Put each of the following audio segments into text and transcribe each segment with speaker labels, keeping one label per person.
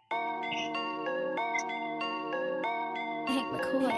Speaker 1: Hank McCoy.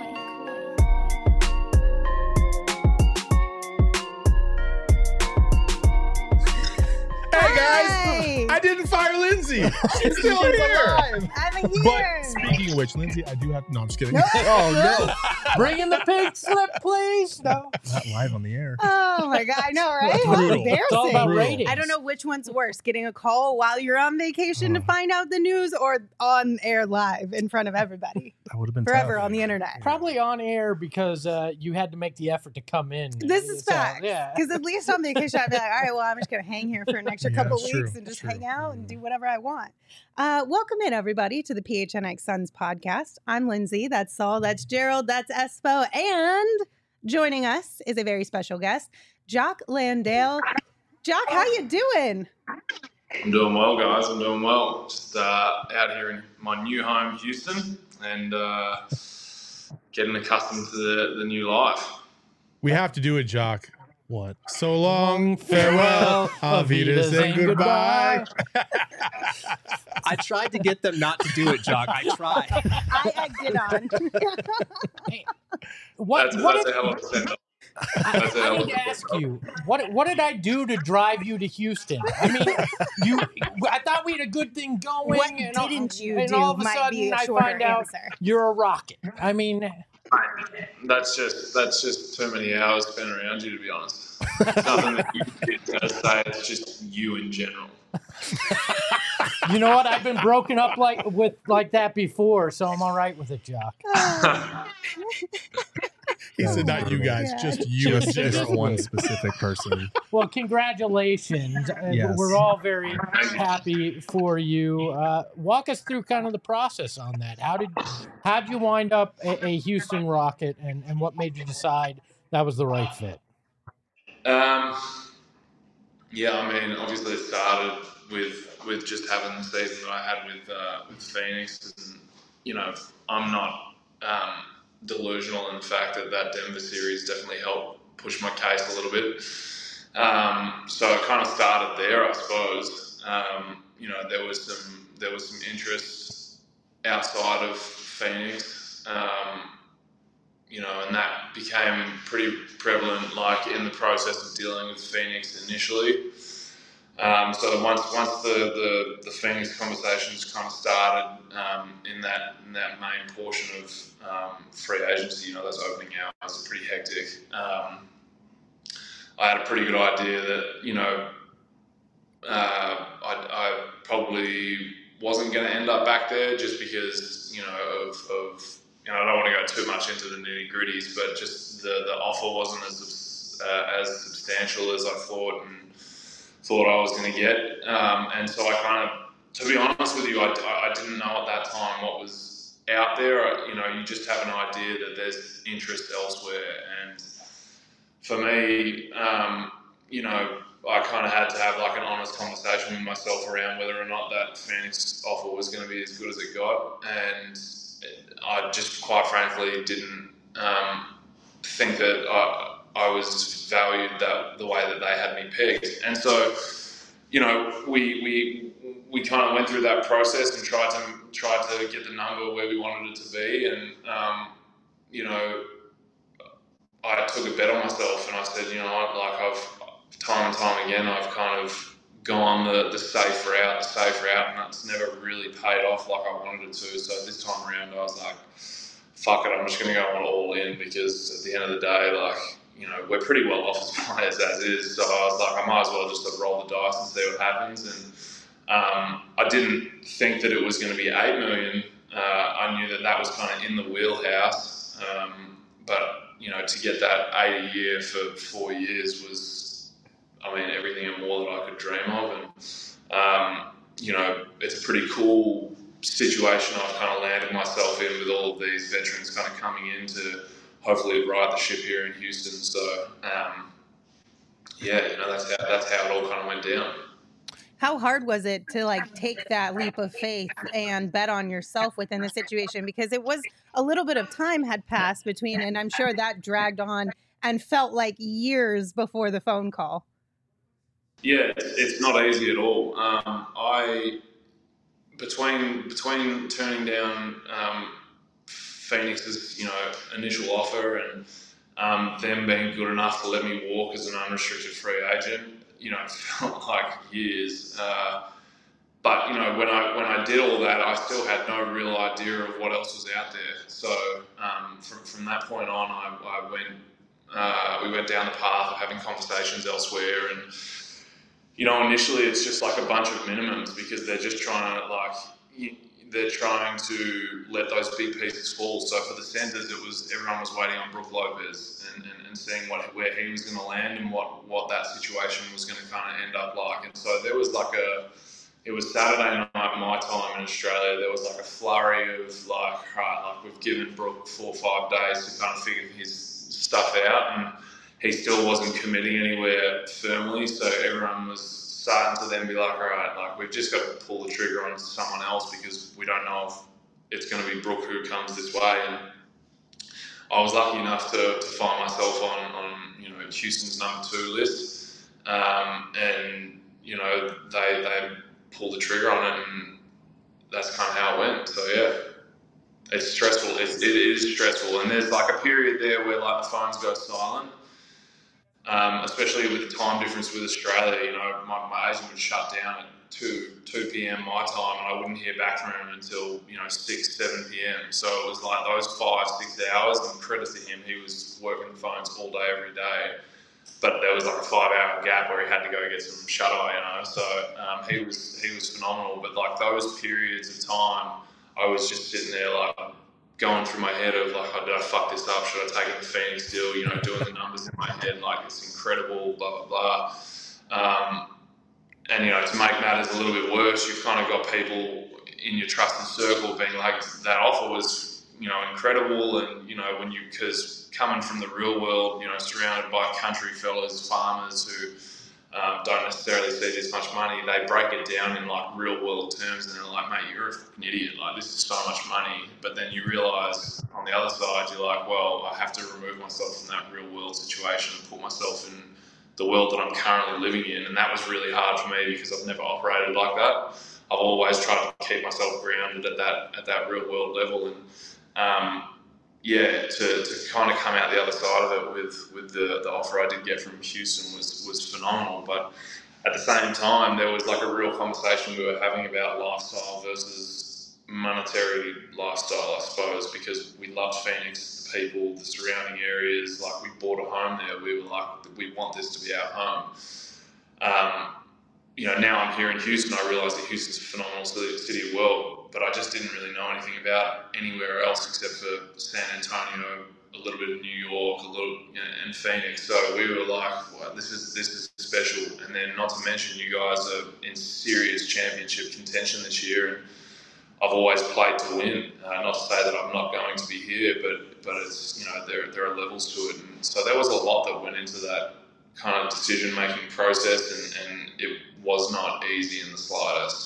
Speaker 2: Hey guys, I didn't fire Lindsay. She's still here.
Speaker 3: Alive.
Speaker 1: I'm here.
Speaker 2: But speaking of which, Lindsay, I do have. No, I'm just kidding.
Speaker 3: Oh no! Bring in the pink slip, please. No.
Speaker 2: Not live on the air.
Speaker 1: Oh my God, I know, right?
Speaker 2: Brutal.
Speaker 1: How
Speaker 3: It's all about
Speaker 1: embarrassing.
Speaker 3: ratings.
Speaker 1: I don't know which one's worse, getting a call while you're on vacation to find out the news or on air live in front of everybody
Speaker 2: That would have been
Speaker 1: forever
Speaker 2: tough.
Speaker 1: on the internet.
Speaker 3: Probably on air because you had to make the effort to come in.
Speaker 1: This is
Speaker 3: So,
Speaker 1: facts.
Speaker 3: Yeah.
Speaker 1: Because at least on vacation, I'd be like, all right, well, I'm just going to hang here for an extra
Speaker 2: Yeah,
Speaker 1: couple
Speaker 2: it's
Speaker 1: weeks
Speaker 2: true.
Speaker 1: and just
Speaker 2: True.
Speaker 1: hang out and do whatever I want. Welcome in, everybody, to the PHNX Suns podcast. I'm Lindsay. That's Saul. That's Gerald. That's Espo. And joining us is a very special guest, Jock Landale. Jock, how you doing?
Speaker 4: I'm doing well, guys. I'm doing well. Just out here in my new home, Houston, and getting accustomed to the new life.
Speaker 2: We have to do it, Jock.
Speaker 3: What?
Speaker 2: So long, farewell, auf Wiedersehen, goodbye.
Speaker 5: I tried to get them not to do it, Jock. I tried.
Speaker 1: I egged it on.
Speaker 3: What?
Speaker 4: That's
Speaker 3: what
Speaker 4: a
Speaker 3: did,
Speaker 4: hell of a send-off.
Speaker 3: I need to ask you, what did I do to drive you to Houston? I mean, I thought we had a good thing going.
Speaker 1: What
Speaker 3: and
Speaker 1: didn't you
Speaker 3: and
Speaker 1: do
Speaker 3: all of a
Speaker 1: might be
Speaker 3: sudden
Speaker 1: a
Speaker 3: I
Speaker 1: shorter
Speaker 3: find out
Speaker 1: answer.
Speaker 3: you're a rocket. I mean,
Speaker 4: That's just too many hours spent around you, to be honest. Nothing that you can say. It's just you in general.
Speaker 3: you know what? I've been broken up like that before, so I'm all right with it, Jock.
Speaker 2: He said, not you guys,
Speaker 1: God.
Speaker 2: just you. in
Speaker 5: Just
Speaker 2: general.
Speaker 5: one specific person.
Speaker 3: Well, congratulations.
Speaker 5: Yes.
Speaker 3: We're all very happy for you. Walk us through kind of the process on that. How'd you wind up a Houston Rocket, and what made you decide that was the right fit?
Speaker 4: Yeah, I mean, obviously it started with just having the season that I had with Phoenix, and you know, I'm not delusional in the fact that Denver series definitely helped push my case a little bit. So it kind of started there, I suppose. You know, there was some interest outside of Phoenix. You know, and that became pretty prevalent, like in the process of dealing with Phoenix initially. So once the Phoenix conversations kind of started in that main portion of free agency, you know, those opening hours are pretty hectic. I had a pretty good idea that, you know, I probably wasn't going to end up back there just because, you know, of you know, I don't want to go too much into the nitty gritties, but just the offer wasn't as substantial as I thought I was going to get. And so I kind of, to be honest with you, I didn't know at that time what was out there. You know, you just have an idea that there's interest elsewhere. And for me, you know, I kind of had to have like an honest conversation with myself around whether or not that Phoenix offer was going to be as good as it got. And I just quite frankly didn't think that I was valued the way that they had me pegged. And so, you know, we kind of went through that process and tried to get the number where we wanted it to be. And, you know, I took a bet on myself and I said, you know, like I've time and time again, I've kind of gone the safe route, and that's never really paid off like I wanted it to. So this time around, I was like, fuck it, I'm just going to go all in, because at the end of the day, like, you know, we're pretty well off as players as is. So I was like, I might as well just roll the dice and see what happens. And I didn't think that it was going to be $8 million. I knew that was kind of in the wheelhouse. But, you know, to get that 8 a year for 4 years was, I mean, everything and more that I could dream of. And, you know, it's a pretty cool situation I've kind of landed myself in with all of these veterans kind of coming in to hopefully right the ship here in Houston. So, yeah, you know, that's how it all kind of went down.
Speaker 1: How hard was it to like take that leap of faith and bet on yourself within the situation? Because it was a little bit of time had passed between, and I'm sure that dragged on and felt like years before the phone call.
Speaker 4: Yeah, it's not easy at all. between turning down Phoenix's initial offer and them being good enough to let me walk as an unrestricted free agent, it felt like years. But when I did all that, I still had no real idea of what else was out there. So from that point on, we went down the path of having conversations elsewhere, and initially it's just like a bunch of minimums because they're just trying to let those big pieces fall. So for the centers, everyone was waiting on Brook Lopez and seeing where he was going to land and what that situation was going to kind of end up like. And so there was it was Saturday night my time in Australia. There was like a flurry of we've given Brook 4 or 5 days to kind of figure his stuff out, and he still wasn't committing anywhere firmly. So everyone was starting to then be like, all right, we've just got to pull the trigger on someone else because we don't know if it's going to be Brook who comes this way. And I was lucky enough to find myself on Houston's number 2 list, and they pulled the trigger on it, and that's kind of how it went. So yeah, it's stressful. It is stressful, and there's like a period there where the phones go silent, especially with the time difference with Australia. My agent would shut down at 2 p.m. my time, and I wouldn't hear back from him until 6, 7 p.m. So it was like those 5-6 hours, and credit to him, he was working the phones all day, every day. But there was like a 5-hour gap where he had to go get some shut eye, So he was phenomenal. But like those periods of time, I was just sitting there going through my head of oh, did I fuck this up? Should I take it to Phoenix still? Doing the numbers in my head, it's incredible, blah blah blah. And to make matters a little bit worse, you've kind of got people in your trusted circle being like, that offer was incredible, and because coming from the real world, surrounded by country fellas, farmers who don't necessarily see this much money, they break it down in real world terms, and they're like, mate, you're a fucking idiot, this is so much money. But then you realise on the other side, you're like, well, I have to remove myself from that real world situation and put myself in the world that I'm currently living in. And that was really hard for me because I've never operated like that. I've always tried to keep myself grounded at that real world level, and to kind of come out the other side of it with the offer I did get from Houston was phenomenal. But at the same time, there was a real conversation we were having about lifestyle versus monetary lifestyle, I suppose, because we loved Phoenix, the people, the surrounding areas. We bought a home there. We were like, we want this to be our home. Now I'm here in Houston, I realise that Houston's a phenomenal city of world, but I just didn't really know anything about anywhere else except for San Antonio, a little bit of New York, and Phoenix. So we were like, well, this is special. And then not to mention, you guys are in serious championship contention this year, and I've always played to win. Not to say that I'm not going to be here, but it's there are levels to it, and so there was a lot that went into that kind of decision-making process, and it was not easy in the slightest.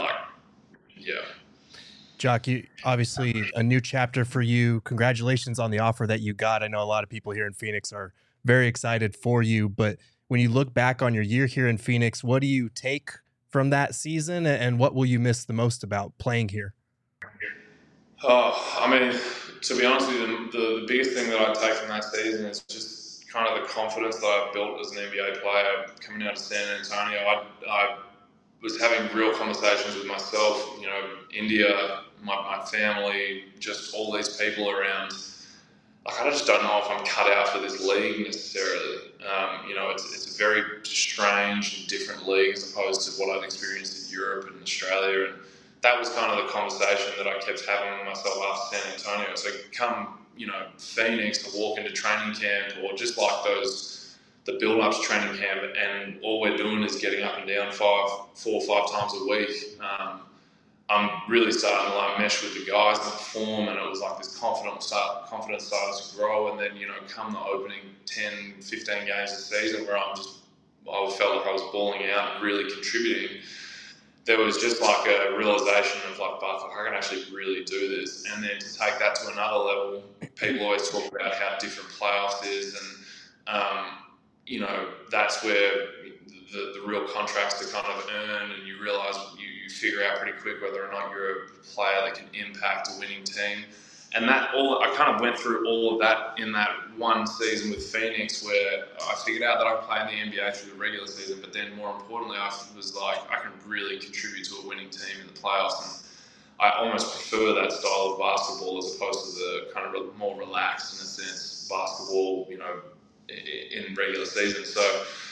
Speaker 5: Jock, obviously a new chapter for you. Congratulations on the offer that you got. I know a lot of people here in Phoenix are very excited for you, but when you look back on your year here in Phoenix, what do you take from that season, and what will you miss the most about playing here?
Speaker 4: Oh, I mean, to be honest with you, the biggest thing that I take from that season is just kind of the confidence that I've built as an NBA player coming out of San Antonio. I was having real conversations with myself, India, my family, just all these people around. I just don't know if I'm cut out for this league necessarily. It's a very strange and different league as opposed to what I've experienced in Europe and Australia. And that was kind of the conversation that I kept having with myself after San Antonio. So come, Phoenix, to walk into training camp, or just the build-ups training camp, and all we're doing is getting up and down 4 or 5 times a week. I'm really starting to mesh with the guys and perform, and it was this confidence started to grow. And then come the opening 10, 15 games of the season where I felt like I was balling out and really contributing. There was just a realization of I can actually really do this. And then to take that to another level, people always talk about how different playoffs is, and that's where the real contracts to kind of earn, and you realize you figure out pretty quick whether or not you're a player that can impact a winning team. And I kind of went through all of that in that one season with Phoenix, where I figured out that I played in the NBA through the regular season, but then more importantly, I was like, I can really contribute to a winning team in the playoffs. And I almost prefer that style of basketball as opposed to the kind of more relaxed, in a sense, basketball, in regular season. So,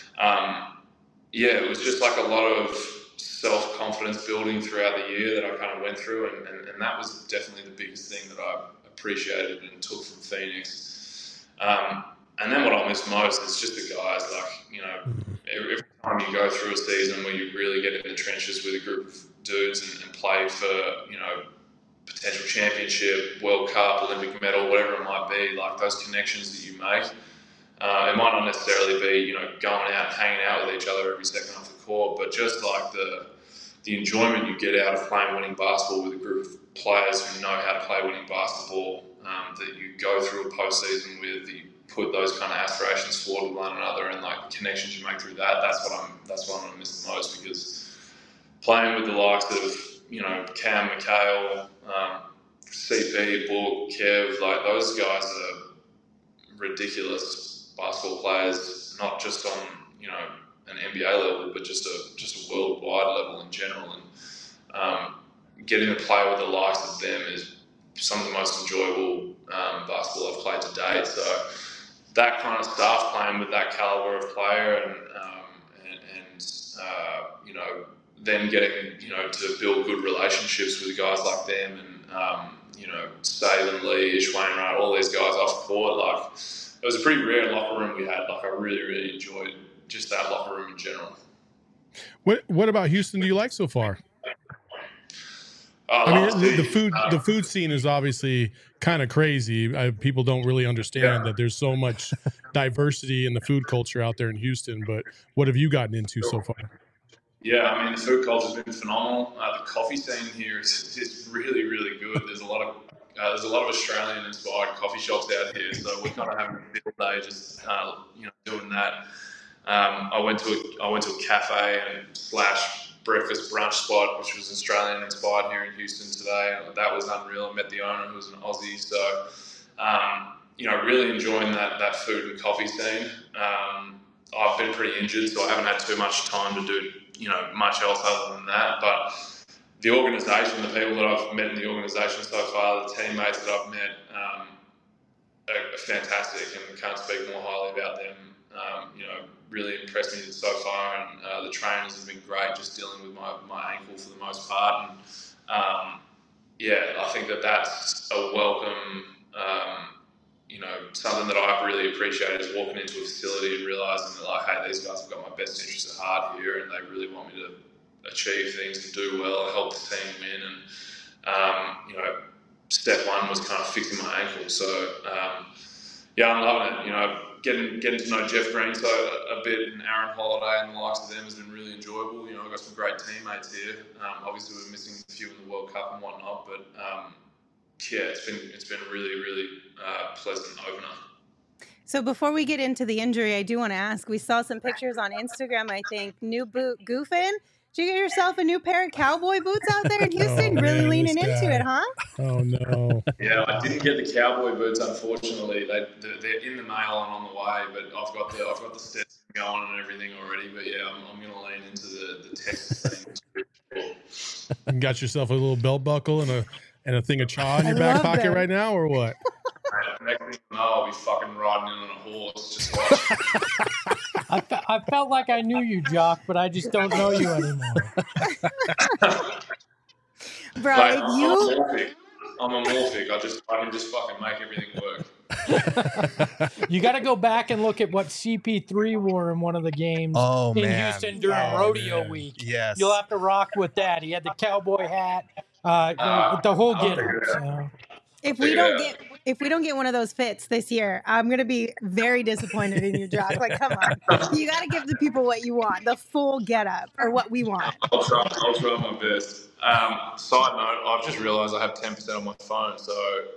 Speaker 4: it was just like a lot of self-confidence building throughout the year that I kind of went through, and that was definitely the biggest thing that I appreciated and took from Phoenix. And then what I miss most is just the guys, every time you go through a season where you really get in the trenches with a group of dudes and play for, potential championship, World Cup, Olympic medal, whatever it might be, like those connections that you make. It might not necessarily be, going out and hanging out with each other every second off the court, but just like the enjoyment you get out of playing winning basketball with a group of players who know how to play winning basketball, that you go through a postseason with, that you put those kind of aspirations forward with one another, and like the connections you make through that. That's what I'm going to miss the most, because playing with the likes of, Cam, Mikhail, CP, Book, Kev, like those guys are ridiculous basketball players, not just on an NBA level, but just a worldwide level in general. And getting to play with the likes of them is some of the most enjoyable basketball I've played to date. So that kind of stuff, playing with that caliber of player, and then getting to build good relationships with guys like them, and Saban, Lee, Ish Wainwright, all these guys off the court, like. It was a pretty rare locker room we had. Like, I really, really enjoyed just that locker room in general.
Speaker 2: What about Houston do you like so far? The food scene is obviously kind of crazy. People don't really understand that there's so much diversity in the food culture out there in Houston. But what have you gotten into so far?
Speaker 4: Yeah, the food culture's been phenomenal. The coffee scene here is really, really good. There's a lot of Australian-inspired coffee shops out here, so we're kind of having a field day just doing that. I went to a cafe and / breakfast brunch spot, which was Australian-inspired here in Houston today. That was unreal. I met the owner, who was an Aussie, so really enjoying that food and coffee scene. I've been pretty injured, so I haven't had too much time to do much else other than that, but the organisation, the people that I've met in the organisation so far, the teammates that I've met, are fantastic, and can't speak more highly about them. Really impressed me so far, and the trainers have been great, just dealing with my ankle for the most part. And I think that's a welcome, something that I really appreciate, is walking into a facility and realising that, like, hey, these guys have got my best interests at heart here, and they really want me to achieve things and do well, help the team win. And step one was kind of fixing my ankle. So I'm loving it. Getting to know Jeff Green a bit, and Aaron Holiday and the likes of them has been really enjoyable. I've got some great teammates here. Obviously we're missing a few in the World Cup and whatnot, but it's been a really, really pleasant opener.
Speaker 1: So before we get into the injury, I do want to ask, we saw some pictures on Instagram, I think, new boot goofing. Did you get yourself a new pair of cowboy boots out there in Houston? Really leaning into it, huh?
Speaker 2: Oh, no.
Speaker 4: Yeah, I didn't get the cowboy boots, unfortunately. They're in the mail and on the way, but I've got the Stetson going and everything already. But yeah, I'm going to lean into the Texas thing.
Speaker 2: You got yourself a little belt buckle and a thing of chaw in your back pocket them right now, or what?
Speaker 4: Next thing you know, I'll be fucking riding in on a horse. Just watch.
Speaker 3: I felt like I knew you, Jock, but I just don't know you anymore.
Speaker 1: Bro,
Speaker 4: I'm a morphic. I can just fucking make everything work.
Speaker 3: You got to go back and look at what CP3 wore in one of the games Houston during rodeo week.
Speaker 5: Yes.
Speaker 3: You'll have to rock with that. He had the cowboy hat, the whole get-up. So.
Speaker 1: If we don't get one of those fits this year, I'm going to be very disappointed in you, Jock. Like, come on. You got to give the people what you want, the full get-up, or what we want.
Speaker 4: I'll try my best. Side note, I've just realised I have 10% on my phone, so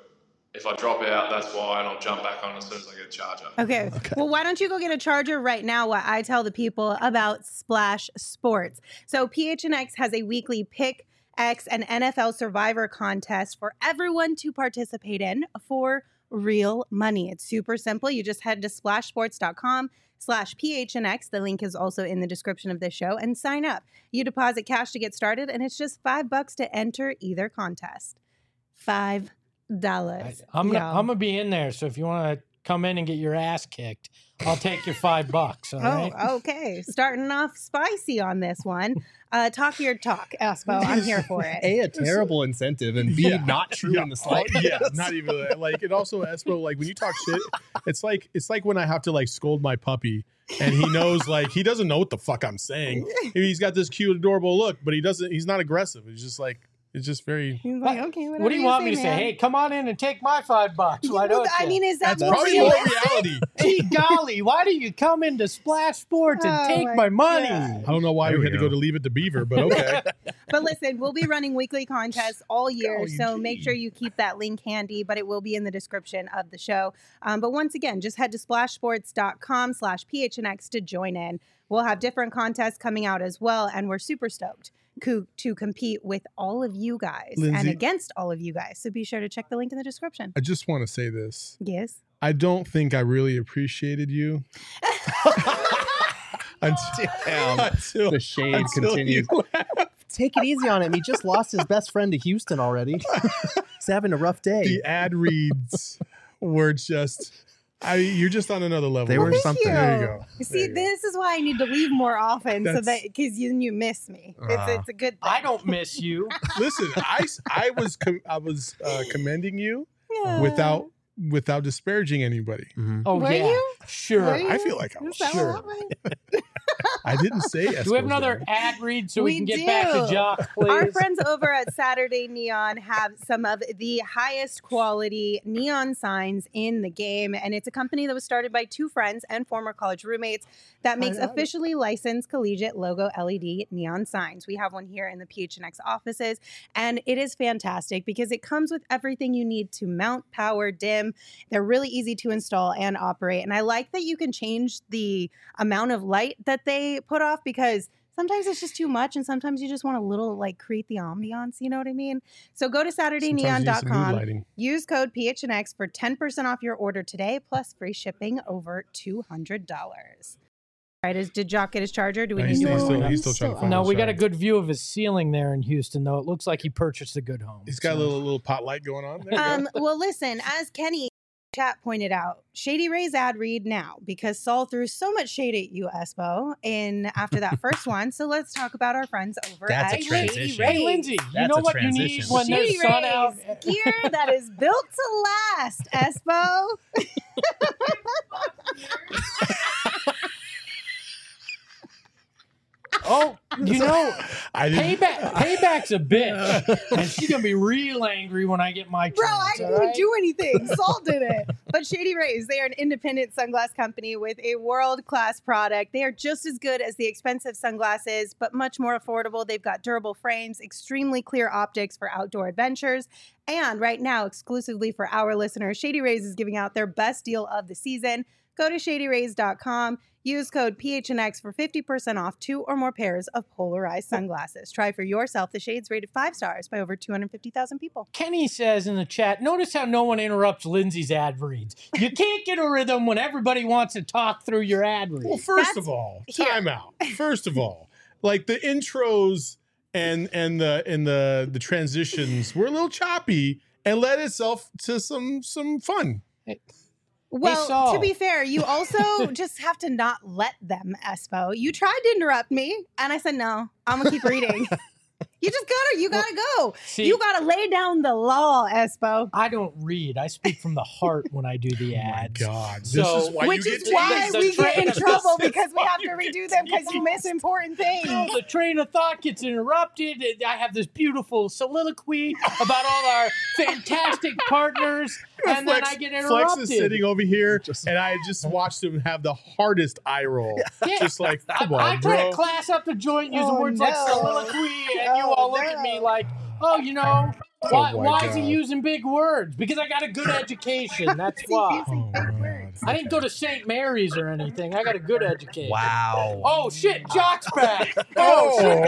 Speaker 4: if I drop out, that's why, and I'll jump back on as soon as I get a charger.
Speaker 1: Okay. Well, why don't you go get a charger right now while I tell the people about Splash Sports? So PHNX has a weekly Pick X and NFL Survivor contest for everyone to participate in for real money. It's super simple. You just head to splashsports.com/PHNX. The link is also in the description of this show, and sign up. You deposit cash to get started, and it's just $5 to enter either contest. $5.
Speaker 3: I'm gonna be in there, so if you want to come in and get your ass kicked, I'll take your $5. All right?
Speaker 1: Oh, okay. Starting off spicy on this one. Talk your talk, Espo. I'm here for it.
Speaker 5: A terrible incentive, and B, not true in the slightest.
Speaker 2: Yeah, not even that. Like, it also, Espo, like when you talk shit, it's like when I have to like scold my puppy, and he knows, like, he doesn't know what the fuck I'm saying. He's got this cute, adorable look, but he's not aggressive. He's just like, it's just very.
Speaker 1: He's like, okay,
Speaker 3: What do you want me to say?
Speaker 1: man.
Speaker 3: Hey, come on in and take my $5. Why don't you?
Speaker 1: I mean, is that
Speaker 2: That's
Speaker 1: more
Speaker 2: probably more
Speaker 1: realistic?
Speaker 2: reality.
Speaker 3: Gee golly, why do you come into Splash Sports and
Speaker 1: Oh
Speaker 3: take
Speaker 1: my
Speaker 3: my money?
Speaker 1: God.
Speaker 2: I don't know why
Speaker 5: There
Speaker 2: we
Speaker 5: we
Speaker 2: had to
Speaker 5: go.
Speaker 2: go to Leave It to Beaver, but okay.
Speaker 1: But listen, we'll be running weekly contests all year,
Speaker 2: Golly
Speaker 1: so make
Speaker 2: gee.
Speaker 1: sure you keep that link handy, but it will be in the description of the show. But once again, just head to splashsports.com/PHNX to join in. We'll have different contests coming out as well, and we're super stoked to compete with all of you guys and
Speaker 2: Lindsay-
Speaker 1: against all of you guys. So be sure to check the link in the description.
Speaker 2: I just want to say this.
Speaker 1: Yes.
Speaker 2: I don't think I really appreciated you until
Speaker 5: The shade
Speaker 2: until
Speaker 5: continues.
Speaker 2: you left.
Speaker 5: Take it easy on him. He just lost his best friend to Houston already. He's having a rough day.
Speaker 2: The ad reads were just. You're just on another level.
Speaker 5: They were
Speaker 1: Thank
Speaker 5: something.
Speaker 1: you.
Speaker 2: There you go.
Speaker 1: See,
Speaker 2: There you go.
Speaker 1: this is why I need to leave more often, so
Speaker 2: That's-
Speaker 1: that because you miss me. It's a good thing.
Speaker 3: I don't miss you.
Speaker 2: Listen, I was commending you
Speaker 1: Yeah.
Speaker 2: without disparaging anybody.
Speaker 5: Mhm.
Speaker 3: Oh,
Speaker 1: Were
Speaker 3: yeah.
Speaker 1: you?
Speaker 3: Sure.
Speaker 1: Were you?
Speaker 2: I feel like I
Speaker 1: Is
Speaker 2: was
Speaker 1: that what
Speaker 2: sure.
Speaker 1: happened?
Speaker 2: I didn't say.
Speaker 3: Do we have
Speaker 2: Espo's
Speaker 3: another
Speaker 2: dad.
Speaker 3: ad read so we
Speaker 1: We
Speaker 3: can get back to
Speaker 1: do.
Speaker 3: Jock, please?
Speaker 1: Our friends over at Saturday Neon have some of the highest quality neon signs in the game. And it's a company that was started by two friends and former college roommates that makes officially licensed collegiate logo LED neon signs. We have one here in the PHNX offices, and it is fantastic because it comes with everything you need to mount, power, dim. They're really easy to install and operate. And I like that you can change the amount of light that they put off because sometimes it's just too much and sometimes you just want a little like create the ambiance, you know what I mean? So go to
Speaker 2: Sometimes you need some mood
Speaker 1: SaturdayNeon.com,
Speaker 2: lighting.
Speaker 1: use code PHNX for 10% off your order today plus free shipping over $200. All right, did Jock get his charger? Do we
Speaker 2: No,
Speaker 1: need
Speaker 2: he's
Speaker 1: to
Speaker 2: still-
Speaker 1: order?
Speaker 2: he's still trying to find
Speaker 3: No,
Speaker 2: his
Speaker 3: we got a
Speaker 2: charger.
Speaker 3: good view of his ceiling there in Houston, though. It looks like he purchased a good home.
Speaker 2: He's got a
Speaker 3: So-
Speaker 2: little pot light going on. There you go.
Speaker 1: Well, listen, as Kenny chat pointed out, Shady Ray's ad read now because Saul threw so much shade at you, Espo, after that first one. So let's talk about our friends over
Speaker 5: That's
Speaker 1: at
Speaker 5: a
Speaker 1: Shady
Speaker 5: transition.
Speaker 1: Rays.
Speaker 3: Hey, Lindsay, you
Speaker 5: That's
Speaker 3: know
Speaker 5: a
Speaker 3: what you need
Speaker 5: transition.
Speaker 3: when
Speaker 1: Shady
Speaker 3: there's sun out?
Speaker 1: Rays, gear that is built to last, Espo.
Speaker 3: Oh, you know,
Speaker 2: I didn't.
Speaker 3: payback's a bitch, and she's gonna be real angry when I get my
Speaker 1: Bro, I
Speaker 3: chance,
Speaker 1: didn't
Speaker 3: all
Speaker 1: even
Speaker 3: right?
Speaker 1: do anything. Saul did it. But Shady Rays, they are an independent sunglass company with a world-class product. They are just as good as the expensive sunglasses, but much more affordable. They've got durable frames, extremely clear optics for outdoor adventures. And right now, exclusively for our listeners, Shady Rays is giving out their best deal of the season. Go to shadyrays.com. Use code PHNX for 50% off 2 or more pairs of polarized sunglasses. Try for yourself the shades rated 5 stars by over 250,000 people.
Speaker 3: Kenny says in the chat, notice how no one interrupts Lindsay's ad reads. You can't get a rhythm when everybody wants to talk through your ad
Speaker 2: Well,
Speaker 3: read.
Speaker 2: first
Speaker 1: That's-
Speaker 2: of all,
Speaker 1: here.
Speaker 2: time out. First of all, like the intros and the transitions were a little choppy and led itself to some fun.
Speaker 1: Well,
Speaker 3: Saul.
Speaker 1: to be fair, you also just have to not let them, Espo. You tried to interrupt me, and I said, no, I'm going to keep reading. You gotta go.
Speaker 3: See,
Speaker 1: You gotta lay down the law, Espo.
Speaker 3: I don't read. I speak from the heart when I do the
Speaker 2: Oh my
Speaker 3: ads.
Speaker 2: God, this
Speaker 3: So-
Speaker 2: is why
Speaker 1: Which
Speaker 2: you
Speaker 1: is
Speaker 2: get
Speaker 1: why
Speaker 3: the
Speaker 1: we get in
Speaker 3: train-
Speaker 1: trouble
Speaker 2: This is
Speaker 1: because we
Speaker 2: why
Speaker 1: have to
Speaker 2: you
Speaker 1: redo
Speaker 2: get
Speaker 1: them because you
Speaker 2: teased.
Speaker 1: miss important things.
Speaker 3: The train of thought gets interrupted. I have this beautiful soliloquy about all our fantastic partners, and then I get
Speaker 2: Flex
Speaker 3: interrupted.
Speaker 2: is sitting over here, and I just watched him have the hardest eye roll.
Speaker 3: Yeah.
Speaker 2: Just like, come
Speaker 3: I
Speaker 2: on,
Speaker 3: try
Speaker 2: bro.
Speaker 3: to class up the joint using
Speaker 1: Oh,
Speaker 3: words like
Speaker 1: no.
Speaker 3: soliloquy, and you
Speaker 1: Oh,
Speaker 3: all look at me
Speaker 1: no.
Speaker 3: like, oh, you know, Why is he using big words? Because I got a good education. That's why. I didn't go to St. Mary's or anything. I got a good education.
Speaker 5: Wow.
Speaker 3: Oh shit, Jock's back.
Speaker 2: Oh,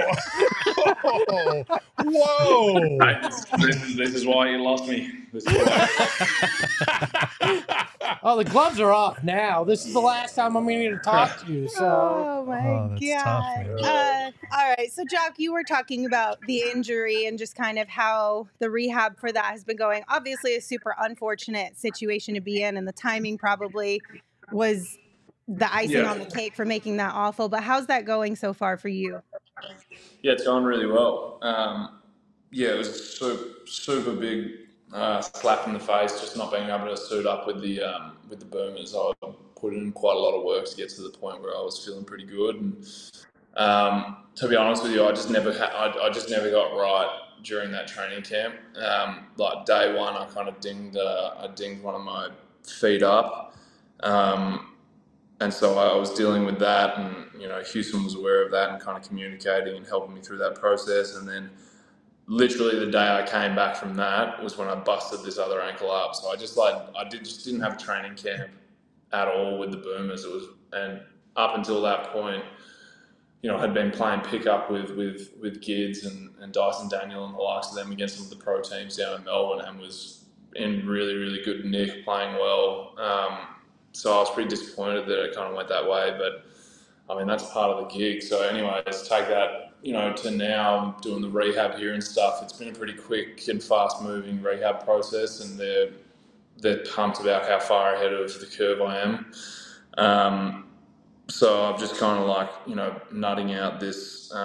Speaker 2: whoa!
Speaker 4: This is why you lost me. This is why.
Speaker 3: Oh, the gloves are off now. This is the last time I'm going to talk to you. So.
Speaker 1: Oh my
Speaker 5: that's
Speaker 1: god!
Speaker 5: tough, man.
Speaker 1: All right, so Jock, you were talking about the injury and just kind of how the rehab for that has been going. Obviously, a super unfortunate situation to be in, and the timing probably was the icing on the cake for making that awful. But how's that going so far for you?
Speaker 4: Yeah, it's going really well. It was a super big slap in the face, just not being able to suit up with the boomers. I put in quite a lot of work to get to the point where I was feeling pretty good. And to be honest with you, I just never got right during that training camp. Like day one, I kind of dinged one of my feet up. And so I was dealing with that, and Houston was aware of that and kind of communicating and helping me through that process. And then literally the day I came back from that was when I busted this other ankle up. So I just didn't have a training camp at all with the boomers. And up until that point, I had been playing pickup with Gids and Dyson Daniel and the likes of them against some of the pro teams down in Melbourne, and was in really, really good nick, playing well. So I was pretty disappointed that it kind of went that way, but I mean, that's part of the gig. So anyways, take that, to now I'm doing the rehab here and stuff. It's been a pretty quick and fast moving rehab process, and they're pumped about how far ahead of the curve I am. So I'm just kind of nutting out this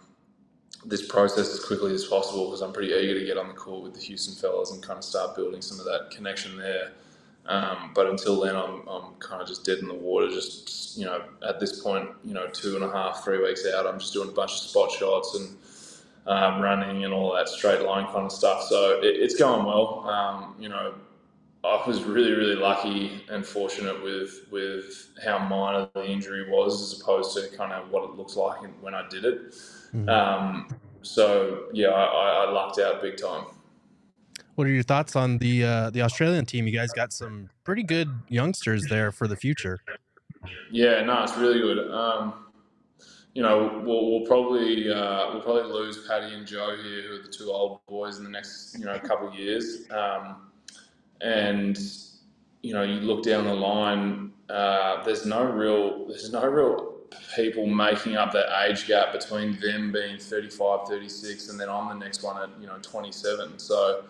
Speaker 4: process as quickly as possible, because I'm pretty eager to get on the court with the Houston fellas and kind of start building some of that connection there. But until then, I'm kind of just dead in the water. Just at this point, 2.5, 3 weeks out, I'm just doing a bunch of spot shots and running and all that straight line kind of stuff. So it's going well. I was really, really lucky and fortunate with how minor the injury was, as opposed to kind of what it looks like when I did it. Mm-hmm. I lucked out big time.
Speaker 5: What are your thoughts on the Australian team? You guys got some pretty good youngsters there for the future.
Speaker 4: Yeah, no, it's really good. We'll probably lose Paddy and Joe here, who are the two old boys, in the next couple of years. And you look down the line. There's no real people making up that age gap between them being 35, 36, and then I'm the next one at 27. So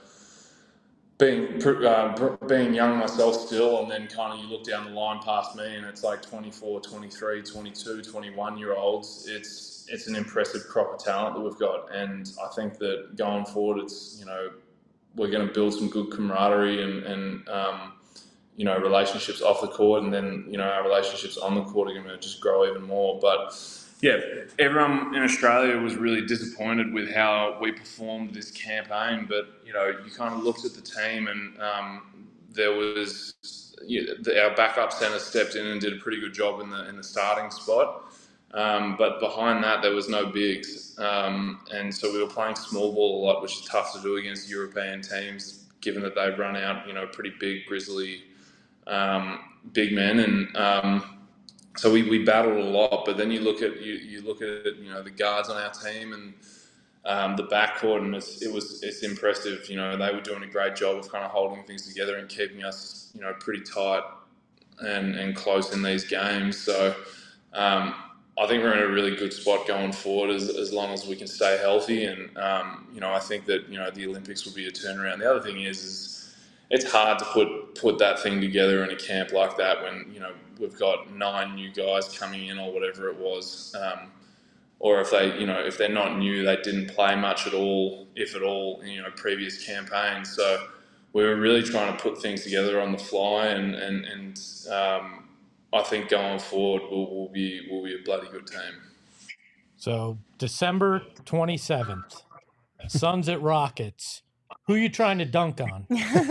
Speaker 4: being young myself still, and then kind of you look down the line past me and it's like 24, 23, 22, 21 year olds. It's an impressive crop of talent that we've got, and I think that going forward, it's we're going to build some good camaraderie and relationships off the court, and then our relationships on the court are going to just grow even more. But yeah, everyone in Australia was really disappointed with how we performed this campaign. But you kind of looked at the team, and there was our backup centre stepped in and did a pretty good job in the starting spot. But behind that, there was no bigs, and so we were playing small ball a lot, which is tough to do against European teams, given that they run out pretty big, grizzly big men, and so we battled a lot. But then you look at the guards on our team and the backcourt, and it's impressive. They were doing a great job of kind of holding things together and keeping us pretty tight and close in these games. So I think we're in a really good spot going forward as long as we can stay healthy. And I think that the Olympics will be a turnaround. The other thing is it's hard to put that thing together in a camp like that when we've got 9 new guys coming in or whatever it was, or if they if they're not new, they didn't play much at all, if at all, previous campaigns. So we were really trying to put things together on the fly, and I think going forward we'll be a bloody good team.
Speaker 3: So December 27th, Suns at Rockets. Who are you trying to dunk on?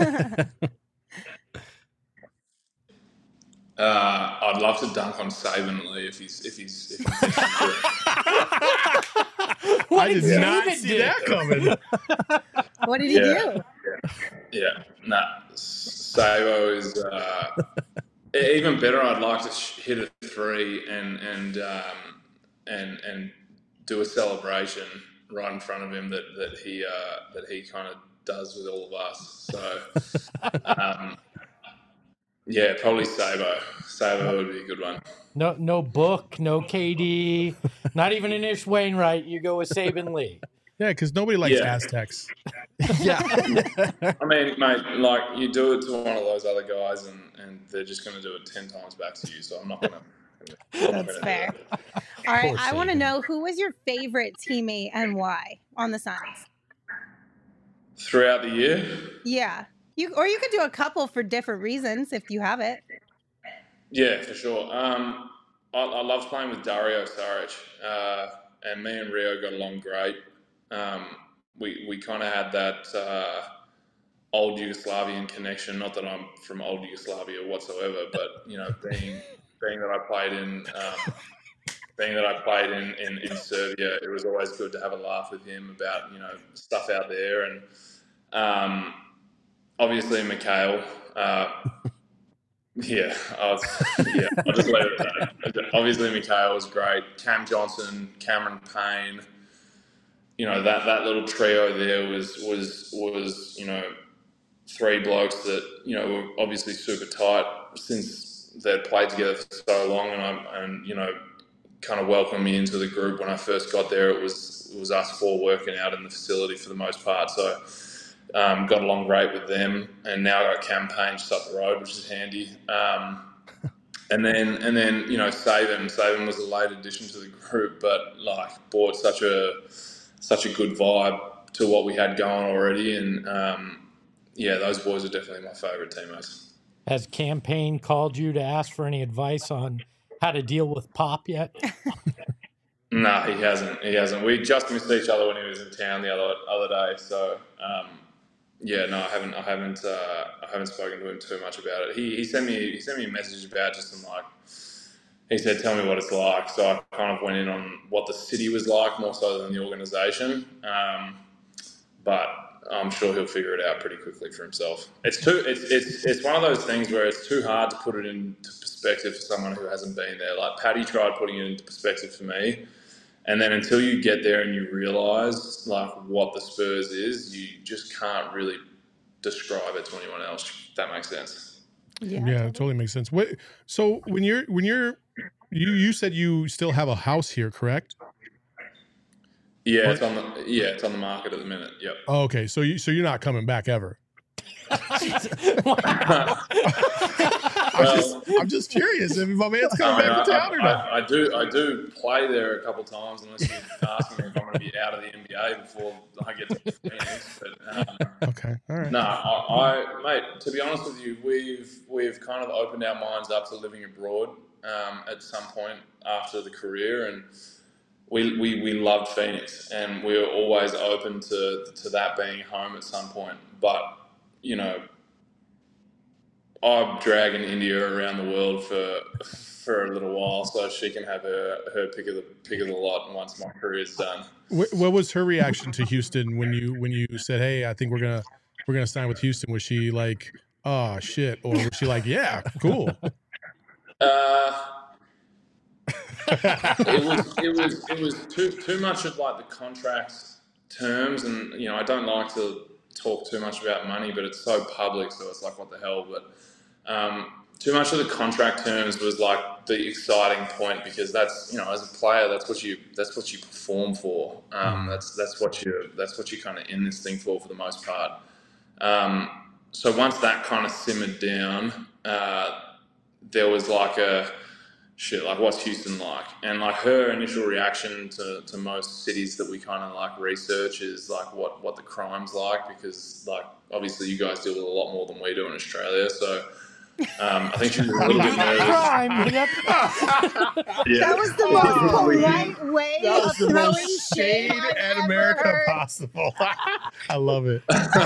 Speaker 4: I'd love to dunk on Saban Lee if he's
Speaker 2: I did not see that coming.
Speaker 1: What did he do?
Speaker 4: Yeah. Nah. Sabo is even better. I'd like to hit a 3 and do a celebration right in front of him that he kind of does with all of us. So yeah, probably Sabo. Sabo would be a good one.
Speaker 3: No Book, no KD, not even an Ish Wainwright. You go with Saban Lee.
Speaker 2: Yeah, because nobody likes
Speaker 4: Yeah.
Speaker 2: Aztecs.
Speaker 5: Yeah.
Speaker 4: I mean, mate, like you do it to one of those other guys, and they're just going to do it 10 times back to you. So I'm not going to.
Speaker 1: That's fair. All right,
Speaker 3: Poor
Speaker 1: I want to
Speaker 3: Saban.
Speaker 1: know who was your favorite teammate and why on the Suns?
Speaker 4: Throughout the year,
Speaker 1: Yeah, you could do a couple for different reasons if you have it.
Speaker 4: yeah, for sure. I loved playing with Dario Saric, and me and Rio got along great. We kind of had that old Yugoslavian connection. Not that I'm from old Yugoslavia whatsoever, but you know, being that I played in in Serbia, it was always good to have a laugh with him about, you know, stuff out there, and obviously Mikhail. Yeah, I'll just leave it at that. Obviously, Mikhail was great. Cam Johnson, Cameron Payne. You know, that little trio there was you know, 3 blokes that, you know, were obviously super tight since they'd played together for so long, and you know, kind of welcomed me into the group when I first got there. It was us 4 working out in the facility for the most part. So. Got along great with them, and now I got Campaign just up the road, which is handy. And then you know, Saban was a late addition to the group, but like brought such a good vibe to what we had going already, and yeah, those boys are definitely my favourite teammates.
Speaker 3: Has Campaign called you to ask for any advice on how to deal with Pop yet?
Speaker 4: No, he hasn't. We just missed each other when he was in town the other day, so. Yeah, no, I haven't spoken to him too much about it. He sent me a message about just some, like, he said, tell me what it's like. So I kind of went in on what the city was like more so than the organisation. But I'm sure he'll figure it out pretty quickly for himself. It's one of those things where it's too hard to put it into perspective for someone who hasn't been there. Like Paddy tried putting it into perspective for me. And then until you get there and you realise like what the Spurs is, you just can't really describe it to anyone else. If that makes sense.
Speaker 2: Yeah, it totally makes sense. So when you said you still have a house here, correct?
Speaker 4: Yeah, it's on the market at the minute. Yep.
Speaker 2: Oh, okay. So you're not coming back ever. I'm just curious if my man's coming back to town or not.
Speaker 4: I do play there a couple of times, unless you ask me if I'm going to be out of the NBA before I get to Phoenix. But,
Speaker 2: okay, all right.
Speaker 4: No, mate. To be honest with you, we've kind of opened our minds up to living abroad at some point after the career, and we loved Phoenix, and we were always open to that being home at some point, but. You know, I'm dragging India around the world for a little while, so she can have her pick of the lot once my career's done.
Speaker 2: What was her reaction to Houston when you said, "Hey, I think we're gonna sign with Houston"? Was she like, "Oh shit," or was she like, "Yeah, cool"?
Speaker 4: It was too much of like the contract terms, and you know, I don't like to talk too much about money, but it's so public, so it's like, what the hell. But too much of the contract terms was like the exciting point, because that's, you know, as a player, that's what you perform for. That's what you kind of in this thing for the most part. So once that kind of simmered down, there was like like, what's Houston like? And like her initial reaction to most cities that we kind of like research is like what the crime's like, because like obviously you guys deal with a lot more than we do in Australia. So I think she was a little bit nervous.
Speaker 1: That was the most polite way of throwing shade
Speaker 2: at America possible. I love it.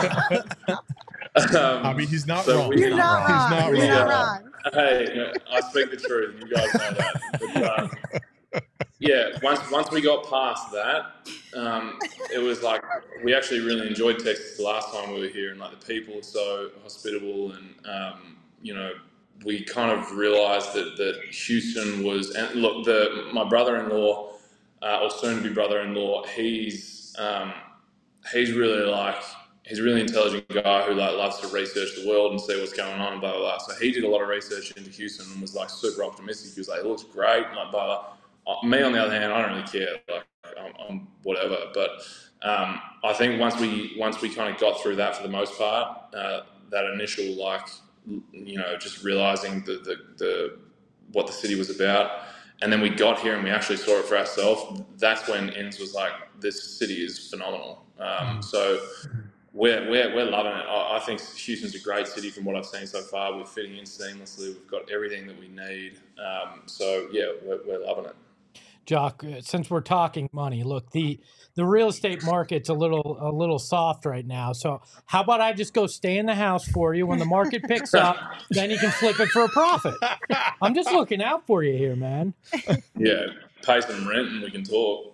Speaker 2: I mean, he's not wrong.
Speaker 1: You're not wrong.
Speaker 2: He's not
Speaker 1: You're
Speaker 2: wrong.
Speaker 1: not wrong.
Speaker 4: Hey, I speak the truth. You guys know that. yeah, once we got past that, it was like we actually really enjoyed Texas the last time we were here, and like the people are so hospitable, and we kind of realized that Houston was. And look, my brother-in-law, or soon-to-be brother-in-law, he's really like. He's a really intelligent guy who like loves to research the world and see what's going on and blah, blah, blah. So he did a lot of research into Houston and was like super optimistic. He was like, it looks great, and like blah, blah. Me, on the other hand, I don't really care. Like, I'm whatever. But I think once we kind of got through that for the most part, that initial like, just realizing the what the city was about, and then we got here and we actually saw it for ourselves. That's when Inns was like, this city is phenomenal. So we're loving it. I think Houston's a great city from what I've seen so far. We're fitting in seamlessly. We've got everything that we need. So yeah, we're loving it.
Speaker 3: Jock, since we're talking money, look, the real estate market's a little soft right now. So how about I just go stay in the house for you? When the market picks up, then you can flip it for a profit. I'm just looking out for you here, man.
Speaker 4: Yeah, pay some rent and we can talk.